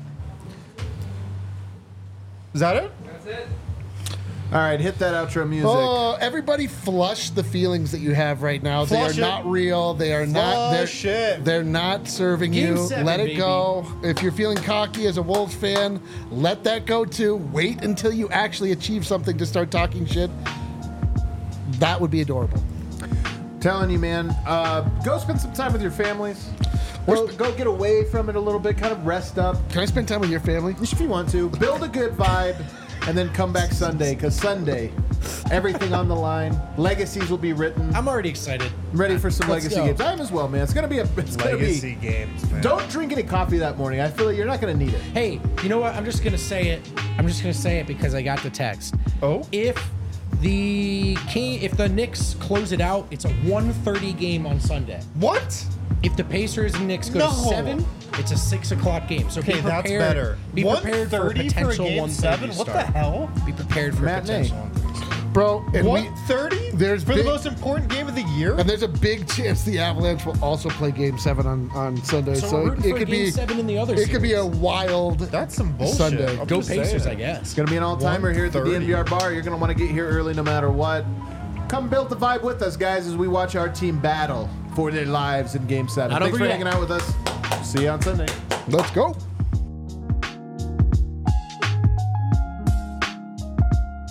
Is that it? All right, hit that outro music. Oh, everybody flush the feelings that you have right now. Flush they it. are not real. They are not. Flush They're, it. they're not serving Game you. seven, let it baby. go. If you're feeling cocky as a Wolves fan, let that go too. Wait until you actually achieve something to start talking shit. That would be adorable. Telling you, man, uh, go spend some time with your families. Well- Go, go get away from it a little bit, kind of rest up. Can I spend time with your family? If you want to, build a good vibe, and then come back Sunday, because Sunday, everything on the line. Legacies will be written. I'm already excited. I'm ready for some Let's legacy go. games. I am as well, man. It's gonna be a. It's gonna Legacy be. games, man. Don't drink any coffee that morning. I feel like you're not gonna need it. Hey, you know what? I'm just gonna say it. I'm just gonna say it because I got the text. Oh? If the King, if the Knicks close it out, it's a one thirty game on Sunday. What? If the Pacers and Knicks go No. to seven, it's a six o'clock game. So Okay, be prepared. that's better. Be prepared for a one thirty potential for a game one seven? thirty What start. the hell? Be prepared for a Matinee. potential one thirty start. Bro, and, we, one thirty? there's for big- the most important game of the year? and there's a big chance the Avalanche will also play Game Seven on, on Sunday. So, So, we're rooting it for could game be seven in the other. it could be a series. wild. That's some bullshit. Sunday. I'm Go just Pacers, saying. I guess. It's gonna be an all-timer here at the one thirty. D N V R bar. You're gonna want to get here early, no matter what. Come build the vibe with us, guys, as we watch our team battle for their lives in Game Seven. Not Thanks over for yet. hanging out with us. See you on Sunday. Let's go.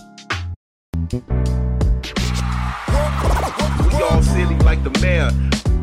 We all silly like the mayor.